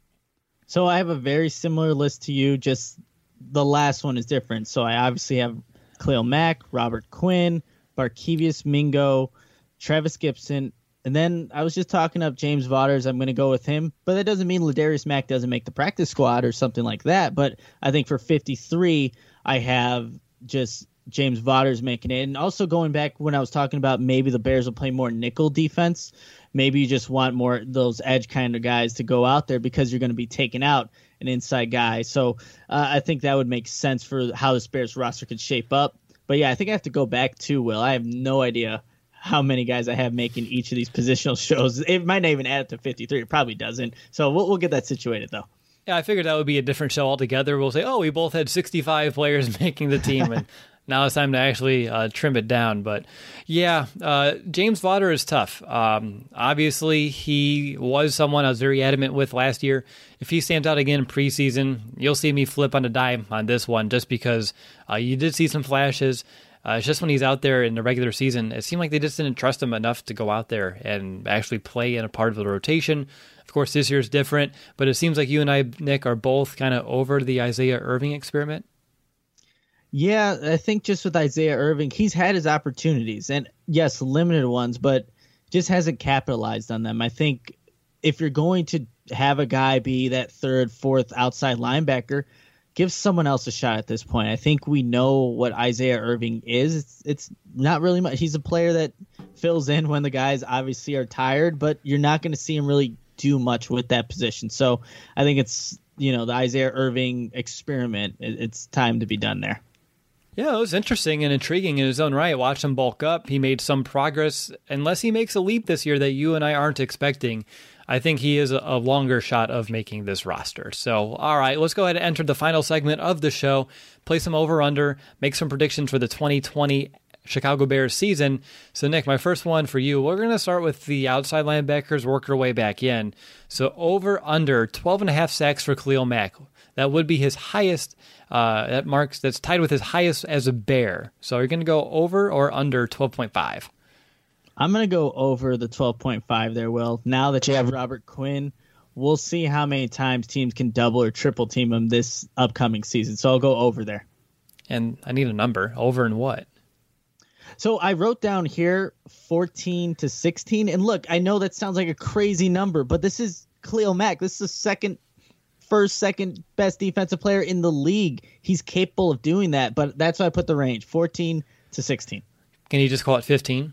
So I have a very similar list to you, just the last one is different. So I obviously have Khalil Mack, Robert Quinn, Barkevious Mingo, Travis Gibson, and then I was just talking up James Vaughters. I'm going to go with him, but that doesn't mean Ladarius Mack doesn't make the practice squad or something like that. But I think for 53, I have just James Vaughters making it. And also going back when I was talking about maybe the Bears will play more nickel defense, maybe you just want more those edge kind of guys to go out there because you're going to be taking out an inside guy. So I think that would make sense for how this Bears roster could shape up. But yeah, I think I have to go back to Will. I have no idea how many guys I have making each of these positional shows. It might not even add up to 53. It probably doesn't. So we'll get that situated, though. Yeah, I figured that would be a different show altogether. We'll say, oh, we both had 65 players making the team, and now it's time to actually trim it down. But yeah, James Vaughter is tough. Obviously, he was someone I was very adamant with last year. If he stands out again in preseason, you'll see me flip on a dime on this one just because you did see some flashes. It's just when he's out there in the regular season, it seemed like they just didn't trust him enough to go out there and actually play in a part of the rotation. Of course, this year's different, but it seems like you and I, Nick, are both kind of over the Isaiah Irving experiment. Yeah, I think just with Isaiah Irving, he's had his opportunities, and yes, limited ones, but just hasn't capitalized on them. I think if you're going to have a guy be that third, fourth outside linebacker, give someone else a shot at this point. I think we know what Isaiah Irving is. It's not really much. He's a player that fills in when the guys obviously are tired, but you're not going to see him really do much with that position. So I think it's, the Isaiah Irving experiment. It's time to be done there. Yeah, it was interesting and intriguing in his own right. Watch him bulk up. He made some progress. Unless he makes a leap this year that you and I aren't expecting, I think he is a longer shot of making this roster. So, all right, let's go ahead and enter the final segment of the show, play some over-under, make some predictions for the 2020 Chicago Bears season. So, Nick, my first one for you, we're going to start with the outside linebackers, work our way back in. So, over-under 12.5 sacks for Khalil Mack. That would be his highest, that's tied with his highest as a Bear. So, are you going to go over or under 12.5? I'm going to go over the 12.5 there, Will. Now that you have Robert Quinn, we'll see how many times teams can double or triple team him this upcoming season. So I'll go over there. And I need a number. Over and what? So I wrote down here 14 to 16. And look, I know that sounds like a crazy number, but this is Khalil Mack. This is the second best defensive player in the league. He's capable of doing that, but that's why I put the range, 14 to 16. Can you just call it 15?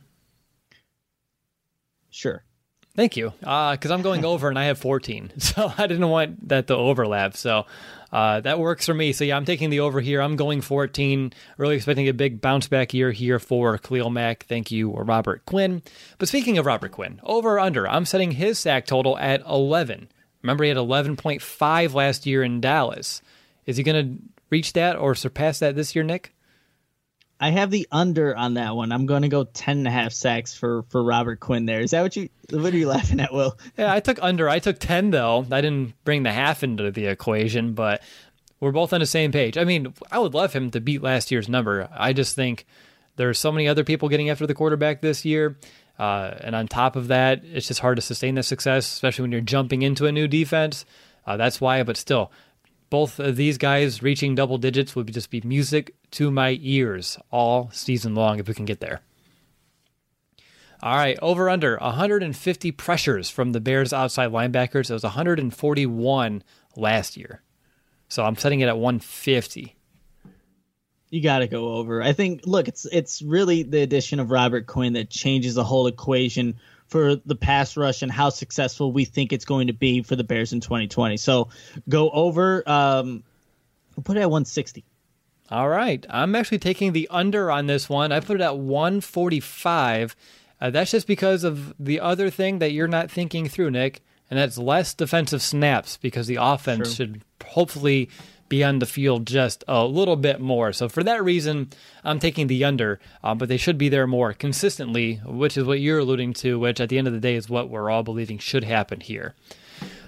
Sure. Thank you. Because I'm going over and I have 14. So I didn't want that to overlap. So that works for me. So yeah, I'm taking the over here. I'm going 14. Really expecting a big bounce back year here for Khalil Mack. Thank you, Robert Quinn. But speaking of Robert Quinn, over or under, I'm setting his sack total at 11. Remember, he had 11.5 last year in Dallas. Is he going to reach that or surpass that this year, Nick? I have the under on that one. I'm going to go 10.5 sacks for Robert Quinn there. Is that what are you laughing at, Will? Yeah, I took under. I took 10, though. I didn't bring the half into the equation, but we're both on the same page. I mean, I would love him to beat last year's number. I just think there's so many other people getting after the quarterback this year. And on top of that, it's just hard to sustain that success, especially when you're jumping into a new defense. That's why, but still, both of these guys reaching double digits would just be music to my ears all season long if we can get there. All right, over under 150 pressures from the Bears outside linebackers. It was 141 last year. So I'm setting it at 150. You got to go over. I think, look, it's really the addition of Robert Quinn that changes the whole equation for the pass rush and how successful we think it's going to be for the Bears in 2020. So go over. We'll put it at 160. All right. I'm actually taking the under on this one. I put it at 145. That's just because of the other thing that you're not thinking through, Nick, and that's less defensive snaps because the offense should hopefully be on the field just a little bit more. So for that reason, I'm taking the under, but they should be there more consistently, which is what you're alluding to, which at the end of the day is what we're all believing should happen here.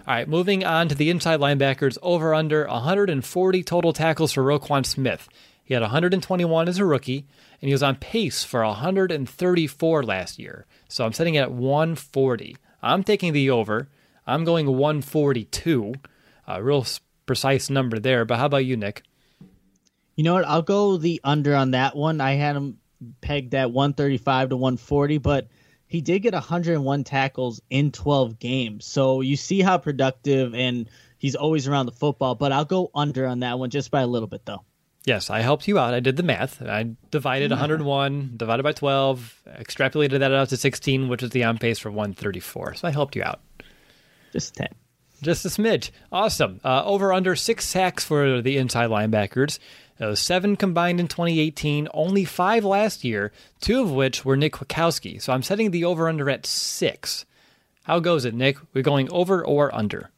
All right, moving on to the inside linebackers, over under 140 total tackles for Roquan Smith. He had 121 as a rookie, and he was on pace for 134 last year. So I'm setting it at 140. I'm taking the over. I'm going 142. Real precise number there, but how about you, Nick? You know what? I'll go the under on that one. I had him pegged at 135 to 140, but he did get 101 tackles in 12 games. So you see how productive, and he's always around the football, but I'll go under on that one just by a little bit, though. Yes, I helped you out. I did the math. I divided 101, divided by 12, extrapolated that out to 16, which is the on pace for 134. So I helped you out. Just 10. Just a smidge. Awesome. Over under 6 sacks for the inside linebackers. 7 combined in 2018, only 5 last year, 2 of which were Nick Kwiatkowski. So I'm setting the over under at 6. How goes it, Nick? We're going over or under?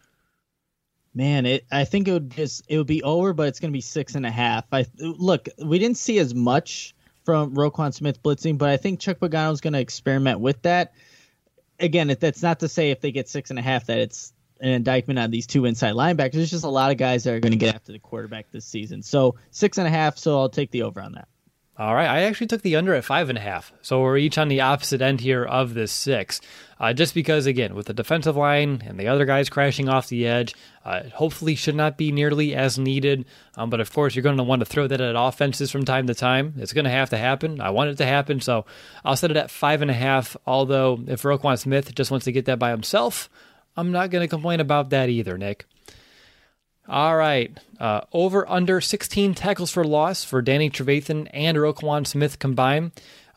Man, I think it would be over, but it's going to be 6.5. Look, we didn't see as much from Roquan Smith blitzing, but I think Chuck Pagano is going to experiment with that. Again, that's not to say if they get 6.5 that it's an indictment on these 2 inside linebackers. There's just a lot of guys that are going to get after the quarterback this season. So 6.5. So I'll take the over on that. All right, I actually took the under at 5.5, so we're each on the opposite end here of this 6. Just because, again, with the defensive line and the other guys crashing off the edge, hopefully should not be nearly as needed. But of course, you're going to want to throw that at offenses from time to time. It's going to have to happen. I want it to happen, so I'll set it at 5.5. Although if Roquan Smith just wants to get that by himself, I'm not going to complain about that either, Nick. All right. Over under 16 tackles for loss for Danny Trevathan and Roquan Smith combined.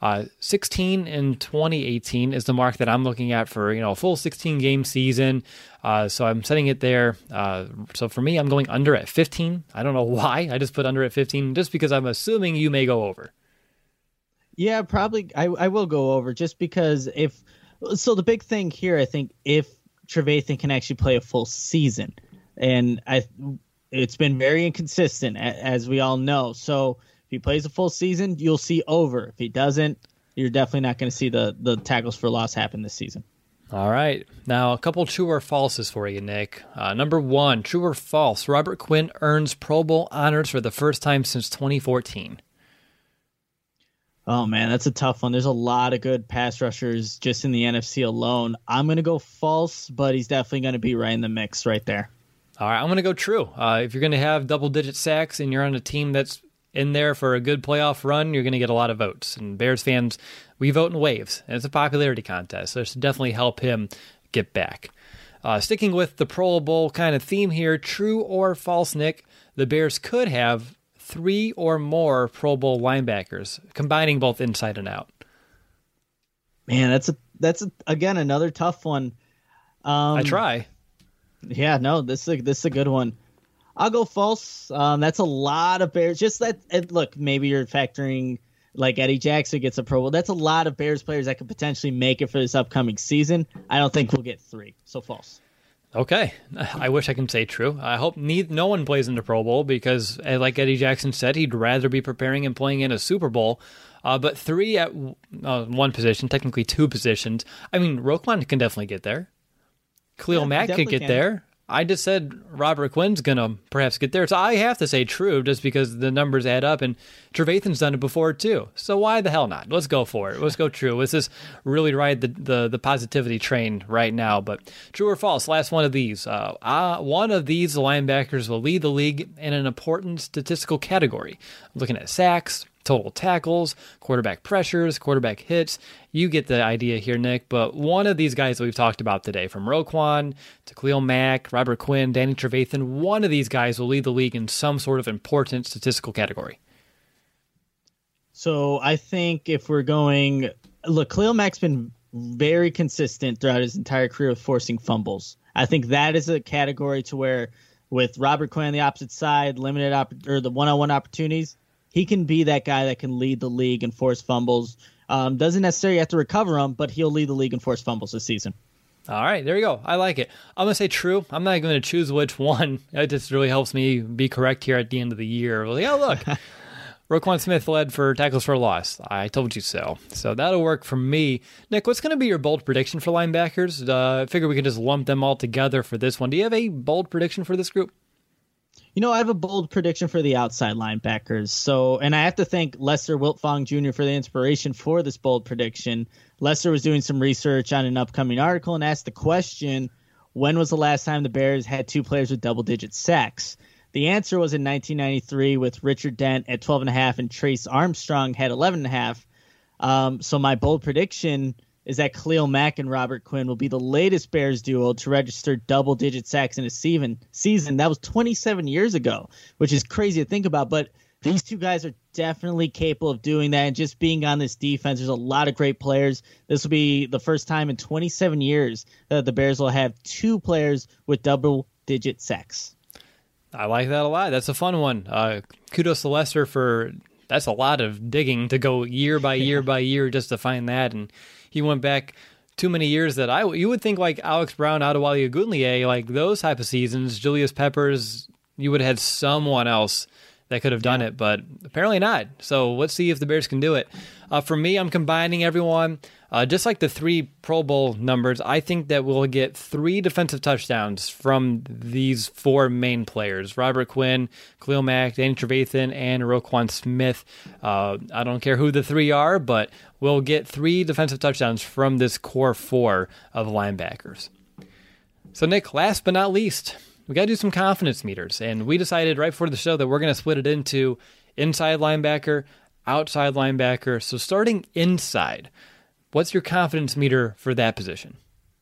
16 in 2018 is the mark that I'm looking at for, a full 16 game season. So I'm setting it there. So for me, I'm going under at 15. I don't know why. I just put under at 15 just because I'm assuming you may go over. Yeah, probably. I will go over just because so the big thing here, I think, if Trevathan can actually play a full season. And it's been very inconsistent, as we all know. So if he plays a full season, you'll see over. If he doesn't, you're definitely not going to see the tackles for loss happen this season. All right. Now, a couple true or falses for you, Nick. Number 1, true or false, Robert Quinn earns Pro Bowl honors for the first time since 2014. Oh, man, that's a tough one. There's a lot of good pass rushers just in the NFC alone. I'm going to go false, but he's definitely going to be right in the mix right there. All right, I'm going to go true. If you're going to have double-digit sacks and you're on a team that's in there for a good playoff run, you're going to get a lot of votes. And Bears fans, we vote in waves, and it's a popularity contest, so it should definitely help him get back. Sticking with the Pro Bowl kind of theme here, true or false, Nick, the Bears could have 3 or more Pro Bowl linebackers, combining both inside and out. Man, that's again another tough one. I try. Yeah, no, this is a good one. I'll go false. That's a lot of Bears. Just that. Look, maybe you're factoring like Eddie Jackson gets a Pro Bowl. That's a lot of Bears players that could potentially make it for this upcoming season. I don't think we'll get 3. So false. Okay. I wish I can say true. I hope no one plays in the Pro Bowl because, like Eddie Jackson said, he'd rather be preparing and playing in a Super Bowl. But 3 at one position, technically 2 positions. I mean, Roquan can definitely get there. Khalil Mack could get there. I just said Robert Quinn's going to perhaps get there. So I have to say true just because the numbers add up. And Trevathan's done it before too. So why the hell not? Let's go for it. Let's go true. Let's just really ride the positivity train right now. But true or false, last one of these. One of these linebackers will lead the league in an important statistical category. I'm looking at sacks, total tackles, quarterback pressures, quarterback hits. You get the idea here, Nick. But one of these guys that we've talked about today, from Roquan to Khalil Mack, Robert Quinn, Danny Trevathan, one of these guys will lead the league in some sort of important statistical category. So I think if we're going... Look, Khalil Mack's been very consistent throughout his entire career with forcing fumbles. I think that is a category to where with Robert Quinn on the opposite side, the one-on-one opportunities, he can be that guy that can lead the league and force fumbles. Doesn't necessarily have to recover them, but he'll lead the league and force fumbles this season. All right, there you go. I like it. I'm going to say true. I'm not going to choose which one. It just really helps me be correct here at the end of the year. Well, yeah, look, Roquan Smith led for tackles for loss. I told you so. So that'll work for me. Nick, what's going to be your bold prediction for linebackers? I figure we can just lump them all together for this one. Do you have a bold prediction for this group? I have a bold prediction for the outside linebackers. And I have to thank Lester Wiltfong Jr. for the inspiration for this bold prediction. Lester was doing some research on an upcoming article and asked the question, when was the last time the Bears had two players with double-digit sacks? The answer was in 1993 with Richard Dent at 12.5 and Trace Armstrong had 11.5. So my bold prediction is that Khalil Mack and Robert Quinn will be the latest Bears duo to register double-digit sacks in a season. That was 27 years ago, which is crazy to think about. But these two guys are definitely capable of doing that. And just being on this defense, there's a lot of great players. This will be the first time in 27 years that the Bears will have two players with double-digit sacks. I like that a lot. That's a fun one. Kudos to Lester for that's a lot of digging to go year by year by year just to find that. And he went back too many years that you would think like Alex Brown, Adewale Ogunleye, like those type of seasons, Julius Peppers, you would have had someone else that could have done it, but apparently not. So let's see if the Bears can do it. For me, I'm combining everyone. Just like the 3 Pro Bowl numbers, I think that we'll get 3 defensive touchdowns from these 4 main players. Robert Quinn, Khalil Mack, Danny Trevathan, and Roquan Smith. I don't care who the 3 are, but we'll get 3 defensive touchdowns from this core 4 of linebackers. So Nick, last but not least, we got to do some confidence meters. And we decided right before the show that we're going to split it into inside linebacker, outside linebacker. So starting inside, what's your confidence meter for that position?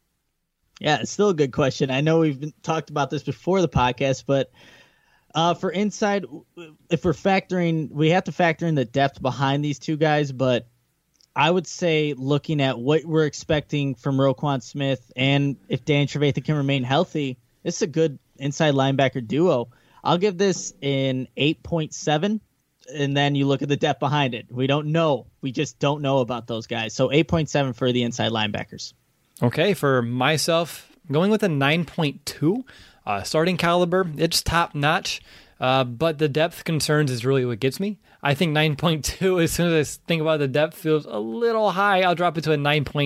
Yeah, it's still a good question. I know we've talked about this before the podcast, but for inside, if we have to factor in the depth behind these two guys, but I would say looking at what we're expecting from Roquan Smith and if Danny Trevathan can remain healthy, it's a good inside linebacker duo. I'll give this an 8.7, and then you look at the depth behind it. We don't know. We just don't know about those guys. So 8.7 for the inside linebackers. Okay, for myself, going with a 9.2. Starting caliber, it's top notch, but the depth concerns is really what gets me. I think 9.2, as soon as I think about the depth, feels a little high. I'll drop it to a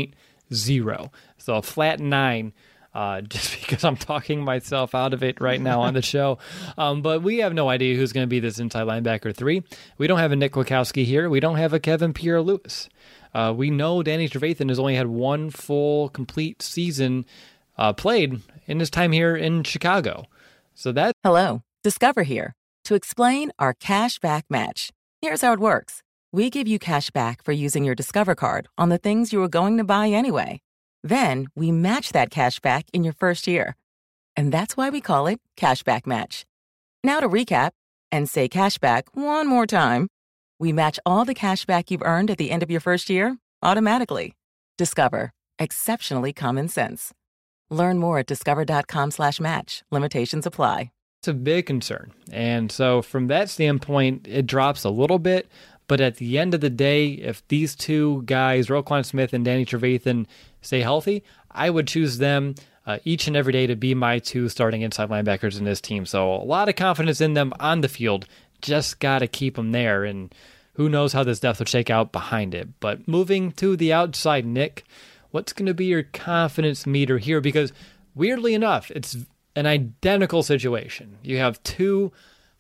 9.0. So a flat 9. Just because I'm talking myself out of it right now on the show. But we have no idea who's going to be this inside linebacker 3. We don't have a Nick Kwiatkowski here. We don't have a Kevin Pierre-Louis. We know Danny Trevathan has only had 1 full, complete season played in his time here in Chicago. So that. Hello, Discover here to explain our cash back match. Here's how it works. We give you cash back for using your Discover card on the things you were going to buy anyway. Then we match that cash back in your first year. And that's why we call it Cashback Match. Now to recap and say cashback one more time. We match all the cash back you've earned at the end of your first year automatically. Discover. Exceptionally common sense. Learn more at discover.com/match. Limitations apply. It's a big concern. And so from that standpoint, it drops a little bit. But at the end of the day, if these two guys, Roquan Smith and Danny Trevathan, stay healthy, I would choose them each and every day to be my 2 starting inside linebackers in this team. So a lot of confidence in them on the field. Just got to keep them there. And who knows how this depth will shake out behind it. But moving to the outside, Nick, what's going to be your confidence meter here? Because weirdly enough, it's an identical situation. You have 2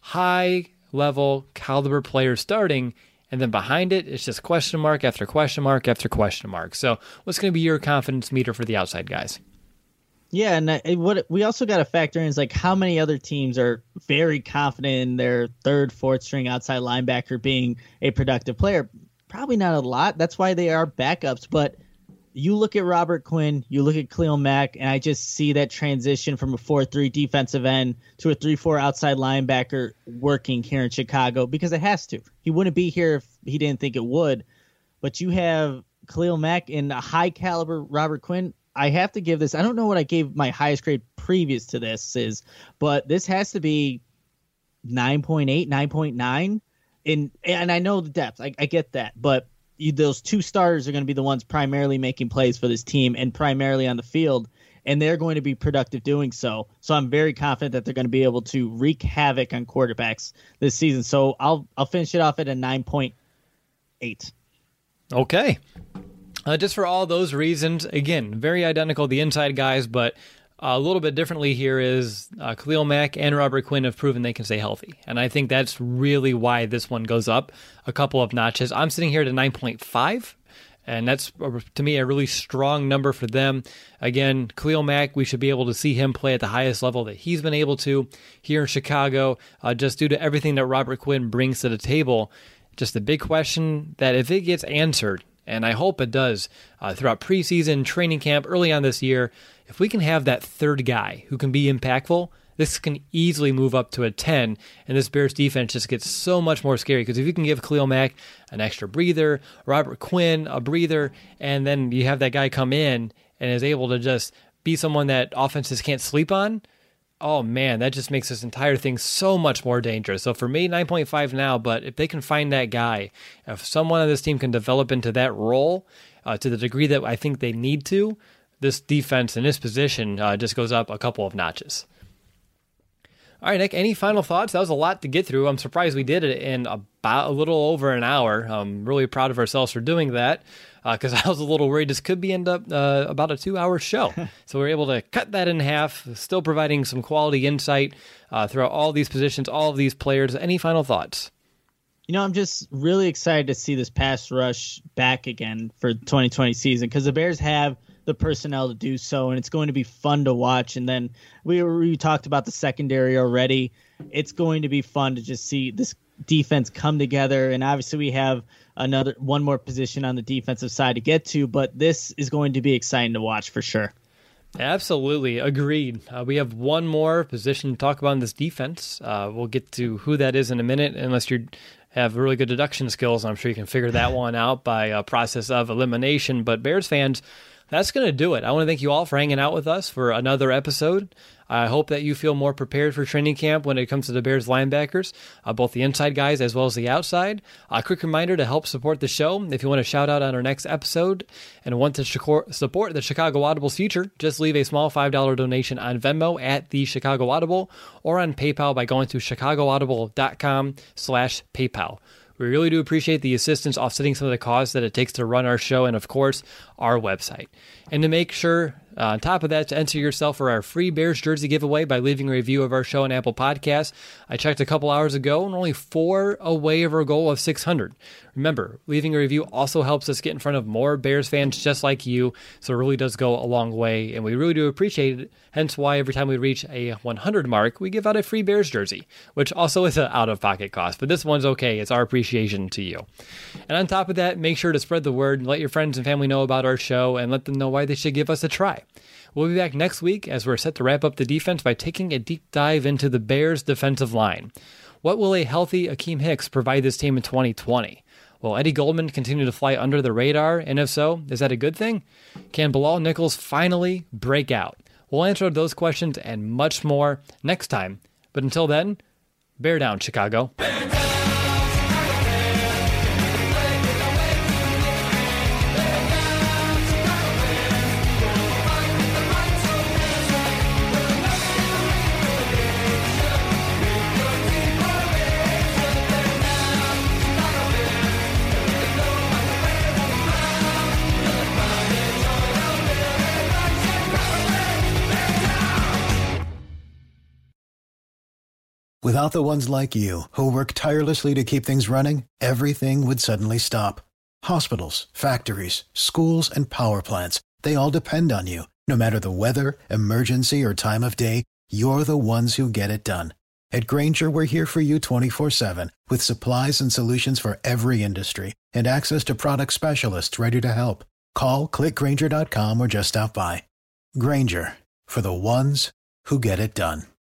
high-level caliber players starting, and then behind it, it's just question mark after question mark after question mark. So what's going to be your confidence meter for the outside guys? Yeah, and what we also got to factor in is like how many other teams are very confident in their 3rd, 4th string outside linebacker being a productive player. Probably not a lot. That's why they are backups. But you look at Robert Quinn, you look at Khalil Mack, and I just see that transition from a 4-3 defensive end to a 3-4 outside linebacker working here in Chicago because it has to. He wouldn't be here if he didn't think it would. But you have Khalil Mack and a high caliber Robert Quinn. I have to give this. I don't know what I gave my highest grade previous to this is, but this has to be 9.8, 9.9. And I know the depth. I get that. But those 2 starters are going to be the ones primarily making plays for this team and primarily on the field. and they're going to be productive doing so. So I'm very confident that they're going to be able to wreak havoc on quarterbacks this season. So I'll finish it off at a 9.8. Okay. Just for all those reasons, again, very identical, the inside guys, but a little bit differently here is Khalil Mack and Robert Quinn have proven they can stay healthy. And I think that's really why this one goes up a couple of notches. I'm sitting here at a 9.5. And that's, to me, a really strong number for them. Again, Khalil Mack, we should be able to see him play at the highest level that he's been able to here in Chicago, just due to everything that Robert Quinn brings to the table. Just a big question that if it gets answered, and I hope it does, throughout preseason, training camp, early on this year, if we can have that third guy who can be impactful, this can easily move up to a 10, and this Bears defense just gets so much more scary, because if you can give Khalil Mack an extra breather, Robert Quinn a breather, and then you have that guy come in and is able to just be someone that offenses can't sleep on, oh man, that just makes this entire thing so much more dangerous. So for me, 9.5 now, but if they can find that guy, if someone on this team can develop into that role to the degree that I think they need to, this defense in this position just goes up a couple of notches. All right, Nick, any final thoughts? That was a lot to get through. I'm surprised we did it in about a little over an hour. I'm really proud of ourselves for doing that, because I was a little worried this could end up about a 2-hour show. So we're able to cut that in half, still providing some quality insight throughout all these positions, all of these players. Any final thoughts? I'm just really excited to see this pass rush back again for 2020 season, because the Bears have the personnel to do so, and it's going to be fun to watch. And then we talked about the secondary already. It's going to be fun to just see this defense come together, and obviously we have one more position on the defensive side to get to, but this is going to be exciting to watch for sure. Absolutely. Agreed. We have one more position to talk about in this defense. We'll get to who that is in a minute, unless you have really good deduction skills. I'm sure you can figure that one out by a process of elimination. But Bears fans, that's going to do it. I want to thank you all for hanging out with us for another episode. I hope that you feel more prepared for training camp when it comes to the Bears linebackers, both the inside guys as well as the outside. A quick reminder to help support the show. If you want to shout out on our next episode and want to support the Chicago Audible's future, just leave a small $5 donation on Venmo at the Chicago Audible or on PayPal by going to chicagoaudible.com/PayPal. We really do appreciate the assistance offsetting some of the costs that it takes to run our show and, of course, our website. And to make sure, on top of that, to enter yourself for our free Bears jersey giveaway by leaving a review of our show on Apple Podcasts. I checked a couple hours ago, and only 4 away of our goal of 600. Remember, leaving a review also helps us get in front of more Bears fans just like you, so it really does go a long way, and we really do appreciate it. Hence why every time we reach a 100 mark, we give out a free Bears jersey, which also is an out-of-pocket cost, but this one's okay. It's our appreciation to you. And on top of that, make sure to spread the word, let your friends and family know about our show, and let them know why they should give us a try. We'll be back next week as we're set to wrap up the defense by taking a deep dive into the Bears' defensive line. What will a healthy Akeem Hicks provide this team in 2020? Will Eddie Goldman continue to fly under the radar? And if so, is that a good thing? Can Bilal Nichols finally break out? We'll answer those questions and much more next time. But until then, bear down, Chicago. Without the ones like you, who work tirelessly to keep things running, everything would suddenly stop. Hospitals, factories, schools, and power plants, they all depend on you. No matter the weather, emergency, or time of day, you're the ones who get it done. At Grainger, we're here for you 24/7, with supplies and solutions for every industry, and access to product specialists ready to help. Call, click Grainger.com, or just stop by. Grainger, for the ones who get it done.